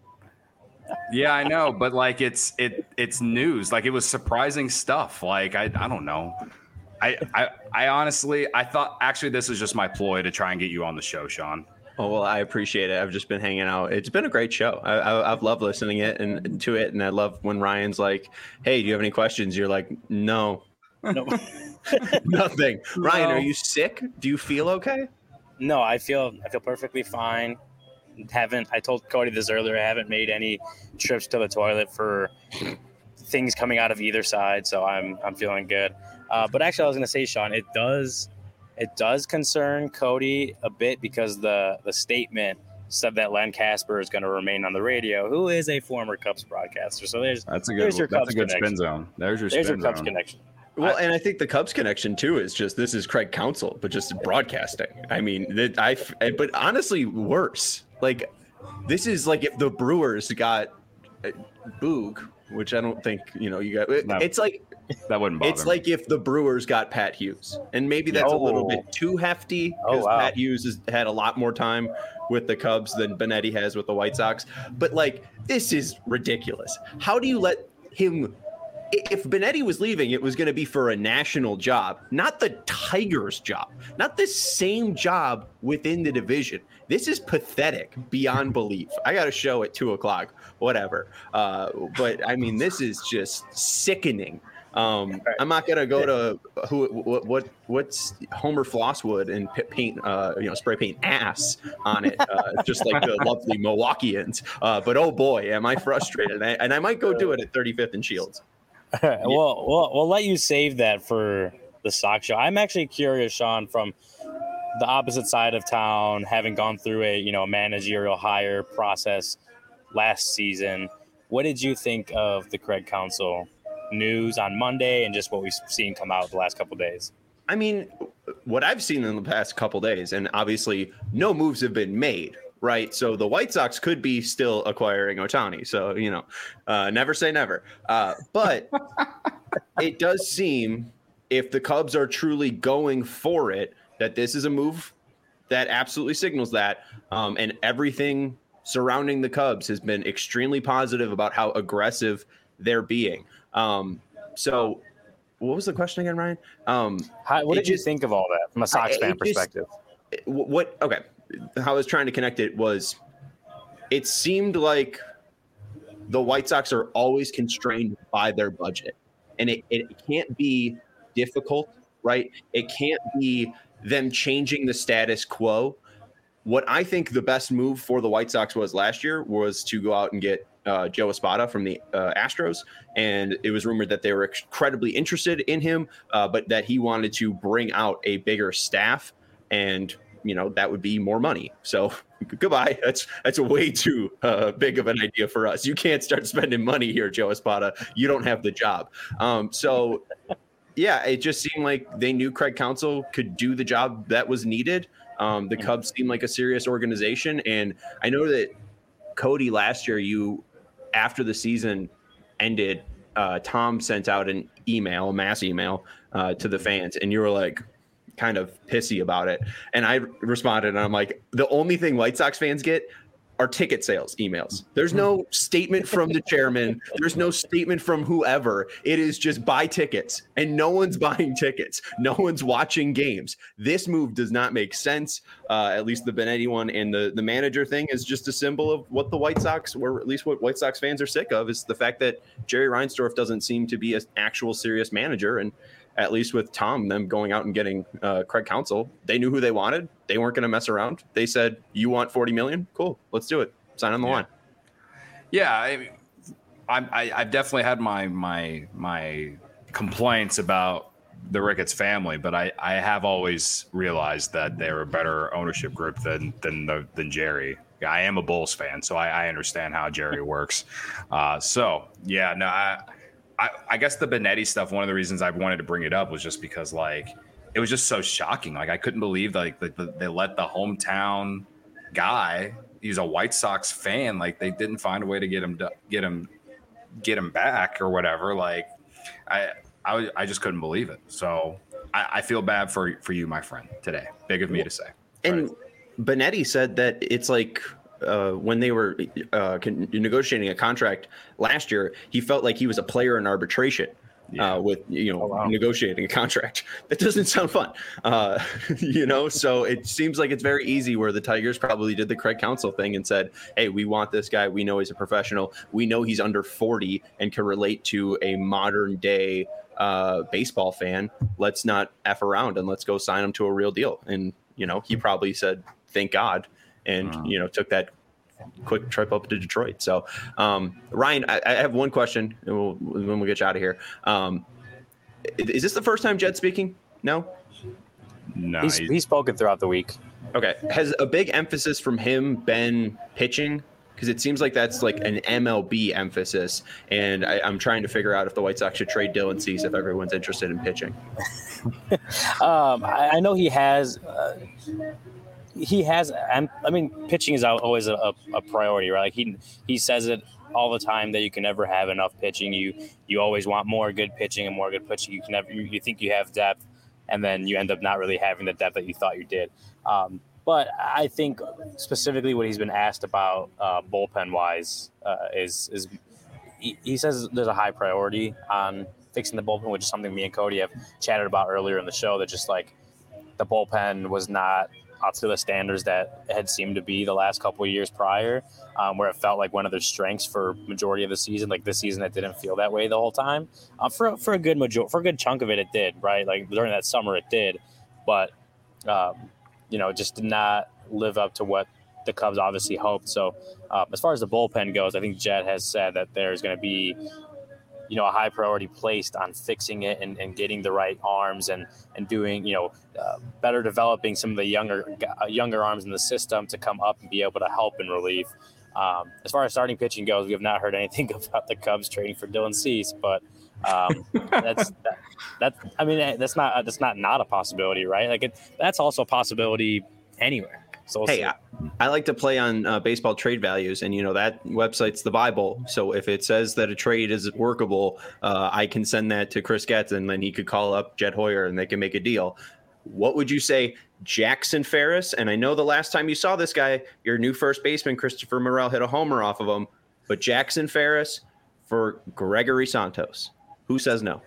Yeah, I know, but like it's it it's news. Like it was surprising stuff. Like I I don't know. I I I honestly I thought actually this is just my ploy to try and get you on the show, Sean. Oh, well, I appreciate it. I've just been hanging out. It's been a great show. I, I, I've loved listening it and to it, and I love when Ryan's like, "Hey, do you have any questions?" You're like, "No, no, nothing." No. Ryan, are you sick? Do you feel okay? No, I feel I feel perfectly fine. Haven't I told Cody this earlier? I haven't made any trips to the toilet for things coming out of either side, so I'm I'm feeling good. Uh, but actually, I was going to say, Sean, it does. It does concern Cody a bit because the, the statement said that Len Casper is going to remain on the radio, who is a former Cubs broadcaster. So there's that's a good there's your that's Cubs a good connection. spin zone. There's your there's spin your Cubs zone. connection. Well, I, and I think the Cubs connection too is just this is Craig Counsell, but just broadcasting. I mean, that I but honestly worse. Like this is like if the Brewers got uh, Boog, which I don't think you know you got. It, no. It's like. That wouldn't bother It's me. like if the Brewers got Pat Hughes, and maybe that's oh. a little bit too hefty because oh, wow. Pat Hughes has had a lot more time with the Cubs than Benetti has with the White Sox. But like, this is ridiculous. How do you let him? If Benetti was leaving, it was going to be for a national job, not the Tigers' job, not the same job within the division. This is pathetic beyond belief. I got a show at two o'clock, whatever. Uh, but I mean, this is just sickening. Um, I'm not gonna go to who what, what what's Homer Flosswood and paint uh, you know spray paint ass on it, uh, just like the lovely Milwaukeeans. Uh, but oh boy, am I frustrated, and I, and I might go do it at thirty-fifth and Shields. Well, we'll we'll let you save that for the Sox show. I'm actually curious, Sean, from the opposite side of town, having gone through a you know managerial hire process last season. What did you think of the Craig Counsell news on Monday and just what we've seen come out the last couple of days? I mean, what I've seen in the past couple of days, and obviously no moves have been made, right? So the White Sox could be still acquiring Ohtani. So, you know, uh, never say never. Uh, but it does seem, if the Cubs are truly going for it, that this is a move that absolutely signals that. Um, and everything surrounding the Cubs has been extremely positive about how aggressive they're being. Um, so what was the question again, Ryan? Um, how, what did just, you think of all that from a Sox I, fan perspective? Just, what, okay. How I was trying to connect it was, it seemed like the White Sox are always constrained by their budget, and it, it can't be difficult, right? It can't be them changing the status quo. What I think the best move for the White Sox was last year was to go out and get uh, Joe Espada from the uh, Astros. And it was rumored that they were incredibly interested in him, uh, but that he wanted to bring out a bigger staff, and, you know, that would be more money. So goodbye. That's that's a way too uh, big of an idea for us. You can't start spending money here, Joe Espada. You don't have the job. Um, so, yeah, it just seemed like they knew Craig Counsell could do the job that was needed. Um, the Cubs seem like a serious organization. And I know that, Cody, last year, you, after the season ended, uh, Tom sent out an email, a mass email uh, to the fans, and you were like kind of pissy about it. And I responded, and I'm like, the only thing White Sox fans get are ticket sales emails. There's no statement from the chairman. There's no statement from whoever. It is just buy tickets, and no one's buying tickets. No one's watching games. This move does not make sense. Uh, at least the Benetti one, and the, the manager thing is just a symbol of what the White Sox, or at least what White Sox fans are sick of, is the fact that Jerry Reinsdorf doesn't seem to be an actual serious manager. And at least with Tom, them going out and getting uh, Craig Counsell, they knew who they wanted. They weren't going to mess around. They said, you want forty million? Cool. Let's do it. Sign on the yeah. line. Yeah. I, I, I've definitely had my, my, my complaints about the Ricketts family, but I, I have always realized that they're a better ownership group than, than, the, than Jerry. I am a Bulls fan, so I, I understand how Jerry works. Uh, so yeah, no, I, I, I guess the Benetti stuff, one of the reasons I wanted to bring it up was just because, like, it was just so shocking. Like, I couldn't believe, like, the, the, they let the hometown guy, he's a White Sox fan, like, they didn't find a way to get him to, get him get him back or whatever. Like, I I, I just couldn't believe it. So I, I feel bad for for you, my friend, today. Big of me to say. And right. Benetti said that it's like, Uh, when they were uh, con- negotiating a contract last year, he felt like he was a player in arbitration yeah. uh, with, you know, oh, wow. negotiating a contract. That doesn't sound fun, uh, you know? So it seems like it's very easy, where the Tigers probably did the Craig Counsell thing and said, hey, we want this guy. We know he's a professional. We know he's under forty and can relate to a modern day uh, baseball fan. Let's not F around, and let's go sign him to a real deal. And, you know, he probably said, thank God. And, wow. you know, took that quick trip up to Detroit. So, um, Ryan, I, I have one question, and we'll, when we get you out of here. Um, is this the first time Jed's speaking? No? No. He's, he's spoken throughout the week. Okay. Has a big emphasis from him been pitching? Because it seems like that's like an M L B emphasis, and I, I'm trying to figure out if the White Sox should trade Dylan Cease if everyone's interested in pitching. um, I, I know he has uh, – He has, I mean, pitching is always a, a priority, right? Like he he says it all the time that you can never have enough pitching. You you always want more good pitching and more good pitching. You can never, you, you think you have depth, and then you end up not really having the depth that you thought you did. Um, but I think specifically what he's been asked about uh, bullpen wise uh, is is he, he says there's a high priority on fixing the bullpen, which is something me and Cody have chatted about earlier in the show. That just like the bullpen was not up to the standards that it had seemed to be the last couple of years prior, um, where it felt like one of their strengths for majority of the season. Like this season, it didn't feel that way the whole time. Uh, for for a good major- for a good chunk of it, it did. Right, like during that summer, it did, but um, you know, just did not live up to what the Cubs obviously hoped. So, uh, as far as the bullpen goes, I think Jed has said that there's going to be, you know, a high priority placed on fixing it and, and getting the right arms and, and doing, you know, uh, better developing some of the younger uh, younger arms in the system to come up and be able to help in relief. Um, as far as starting pitching goes, we have not heard anything about the Cubs trading for Dylan Cease, but um, that's that, that. I mean, that's not that's not not a possibility, right? Like it, that's also a possibility anywhere. So we'll hey, I, I like to play on uh, baseball trade values, and you know that website's the Bible. So if it says that a trade is workable, uh, I can send that to Chris Getz, and then he could call up Jed Hoyer, and they can make a deal. What would you say, Jackson Ferris? And I know the last time you saw this guy, your new first baseman, Christopher Morel, hit a homer off of him. But Jackson Ferris for Gregory Santos. Who says no?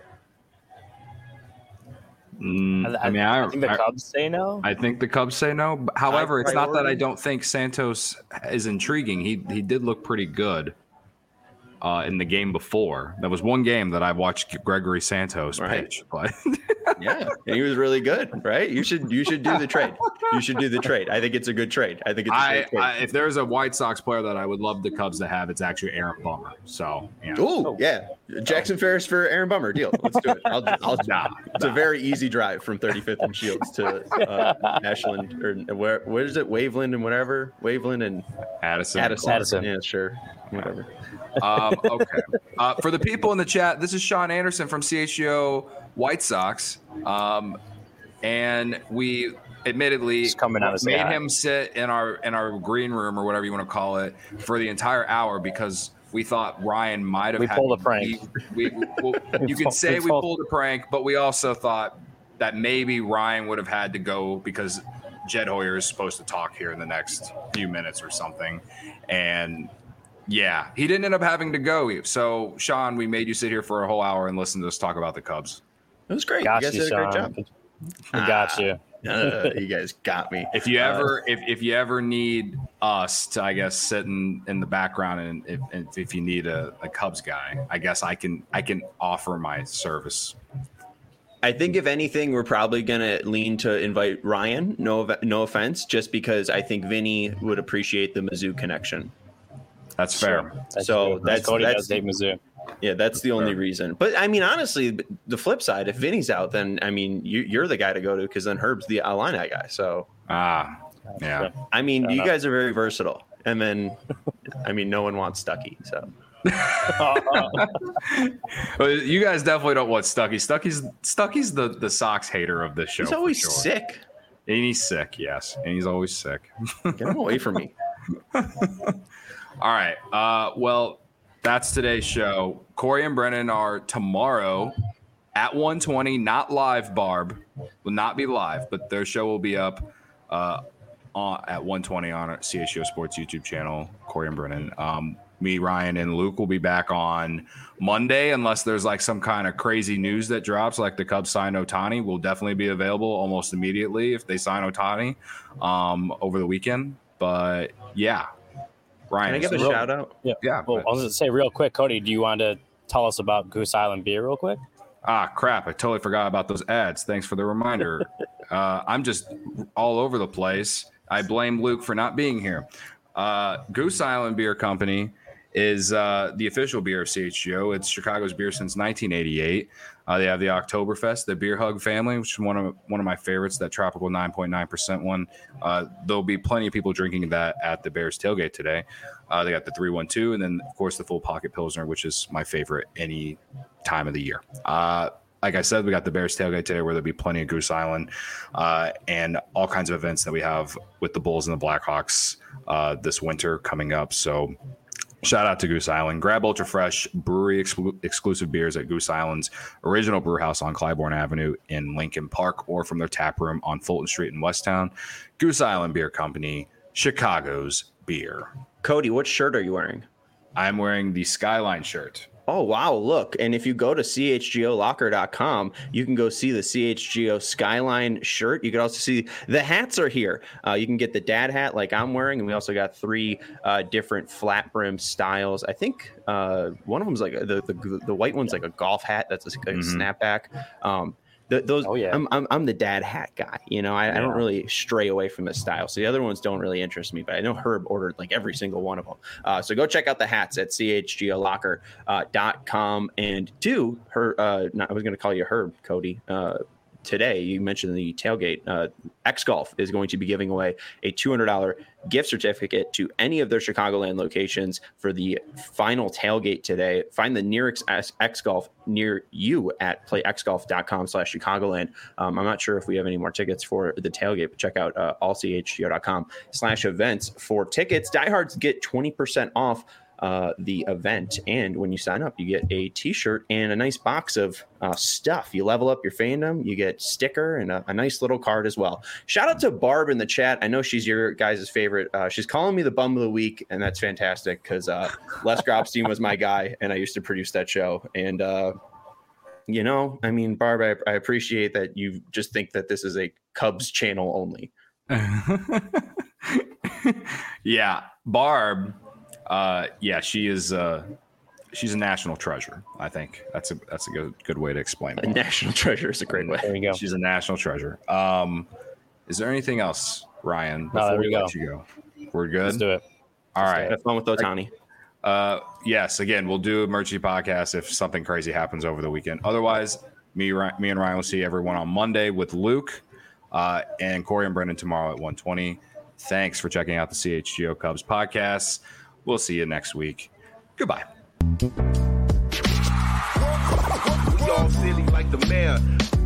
Mm, I, I mean, I, I think the I, Cubs say no. I think the Cubs say no. However, it's not that I don't think Santos is intriguing. He he did look pretty good uh, in the game before. That was one game that I watched Gregory Santos right. pitch. But yeah, and he was really good, right? You should you should do the trade. You should do the trade. I think it's a good trade. I think it's a I, great trade. I, if there's a White Sox player that I would love the Cubs to have, it's actually Aaron Bummer. So, yeah. Ooh, yeah. Jackson Ferris for Aaron Bummer. Deal. Let's do it. I'll, I'll, nah, it's nah. a very easy drive from thirty-fifth and Shields to uh, Ashland or where where is it? Waveland and whatever. Waveland and Addison. Addison. Addison. Yeah, sure. Whatever. Um, okay. Uh, for the people in the chat, this is Sean Anderson from C H G O White Sox. Um, and we admittedly coming out made him him sit in our in our green room or whatever you want to call it for the entire hour because we thought Ryan might have we had pulled a prank. We, we, well, you could say we pulled a prank, but we also thought that maybe Ryan would have had to go because Jed Hoyer is supposed to talk here in the next few minutes or something. And yeah, he didn't end up having to go. So, Sean, we made you sit here for a whole hour and listen to us talk about the Cubs. It was great. Got you guys you, did a great Sean. job. We got you. Uh, you guys got me. If you ever, uh, if, if you ever need us to, I guess, sit in, in the background, and if, if, if you need a, a Cubs guy, I guess I can I can offer my service. I think if anything, we're probably gonna lean to invite Ryan. No, no offense, just because I think Vinny would appreciate the Mizzou connection. That's fair. Sure. That's so true. that's Cody that's does take Mizzou. Yeah, that's the only Fair. reason. But I mean, honestly, the flip side, if Vinny's out, then I mean, you, you're the guy to go to because then Herb's the Illini guy. So Ah, yeah. I mean, Fair you enough. guys are very versatile. And then, I mean, no one wants Stuckey. So Well, you guys definitely don't want Stuckey. Stuckey's Stuckey's the, the Sox hater of this show. he's for always sure. sick. And he's sick, yes. And he's always sick. Get him away from me. All right. Uh, well, that's today's show. Corey and Brennan are tomorrow at one twenty, not live, Barb. Will not be live, but their show will be up uh, on, at one twenty on our C H G O Sports YouTube channel, Corey and Brennan. Um, me, Ryan, and Luke will be back on Monday, unless there's like some kind of crazy news that drops, like the Cubs sign Ohtani. Will definitely be available almost immediately if they sign Ohtani um, over the weekend. But yeah, Ryan, Can I give a real- shout out? Yeah. Yeah, Well, but- I was going to say real quick, Cody, do you want to tell us about Goose Island beer real quick? Ah, crap. I totally forgot about those ads. Thanks for the reminder. uh, I'm just all over the place. I blame Luke for not being here. Uh, Goose Island Beer Company is uh, the official beer of C H G O. It's Chicago's beer since nineteen eighty-eight. Uh, they have the Oktoberfest, the Beer Hug family, which is one of one of my favorites, that tropical nine point nine percent one. Uh, there'll be plenty of people drinking that at the Bears tailgate today. Uh, they got the three one two, and then, of course, the Full Pocket Pilsner, which is my favorite any time of the year. Uh, like I said, we got the Bears tailgate today where there'll be plenty of Goose Island uh, and all kinds of events that we have with the Bulls and the Blackhawks uh, this winter coming up. So shout out to Goose Island. Grab Ultra Fresh brewery exclu- exclusive beers at Goose Island's original brew house on Clybourne Avenue in Lincoln Park, or from their tap room on Fulton Street in Westtown. Goose Island Beer Company, Chicago's beer. Cody, what shirt are you wearing? I'm wearing the Skyline shirt. Oh, wow. Look. And if you go to C H G O locker dot com, you can go see the C H G O Skyline shirt. You can also see the hats are here. Uh, you can get the dad hat like I'm wearing. And we also got three uh, different flat brim styles. I think uh, one of them is like a, the, the the white one's like a golf hat. That's a, a Mm-hmm. snapback. Um, the, those, Oh, yeah. I'm, I'm I'm the dad hat guy. You know, I, I don't Yeah. really stray away from this style. So the other ones don't really interest me, but I know Herb ordered like every single one of them. Uh, so go check out the hats at C H G O locker dot com. And two, her, uh, not, I was going to call you Herb, Cody. Uh, today, you mentioned the tailgate. Uh, X Golf is going to be giving away a two hundred dollars gift certificate to any of their Chicagoland locations for the final tailgate today. Find the nearest X Golf near you at playxgolf.com slash Chicagoland. Um, I'm not sure if we have any more tickets for the tailgate, but check out uh, allchgo.com slash events for tickets. Diehards get twenty percent off uh the event, and when you sign up you get a t-shirt and a nice box of uh stuff. You level up your fandom, you get sticker and a, a nice little card as well. Shout out to Barb in the chat. I know she's your guys' favorite. Uh she's calling me the bum of the week, and that's fantastic because uh Les Grobstein was my guy and I used to produce that show. And uh you know, I mean, Barb, I, I appreciate that you just think that this is a Cubs channel only. Yeah, Barb. Uh, yeah, she is. Uh, she's a national treasure. I think that's a that's a good good way to explain it. A national treasure is a great way. There you go. She's a national treasure. Um, is there anything else, Ryan? Before No, there we we let go. you go, we're good. Let's do it. All Let's do right. Have fun with Otani. Uh, yes. Again, we'll do emergency podcast if something crazy happens over the weekend. Otherwise, me, Ry- me and Ryan will see everyone on Monday with Luke, uh, and Corey and Brendan tomorrow at one twenty. Thanks for checking out the C H G O Cubs podcast. We'll see you next week. Goodbye. We all silly like the mayor.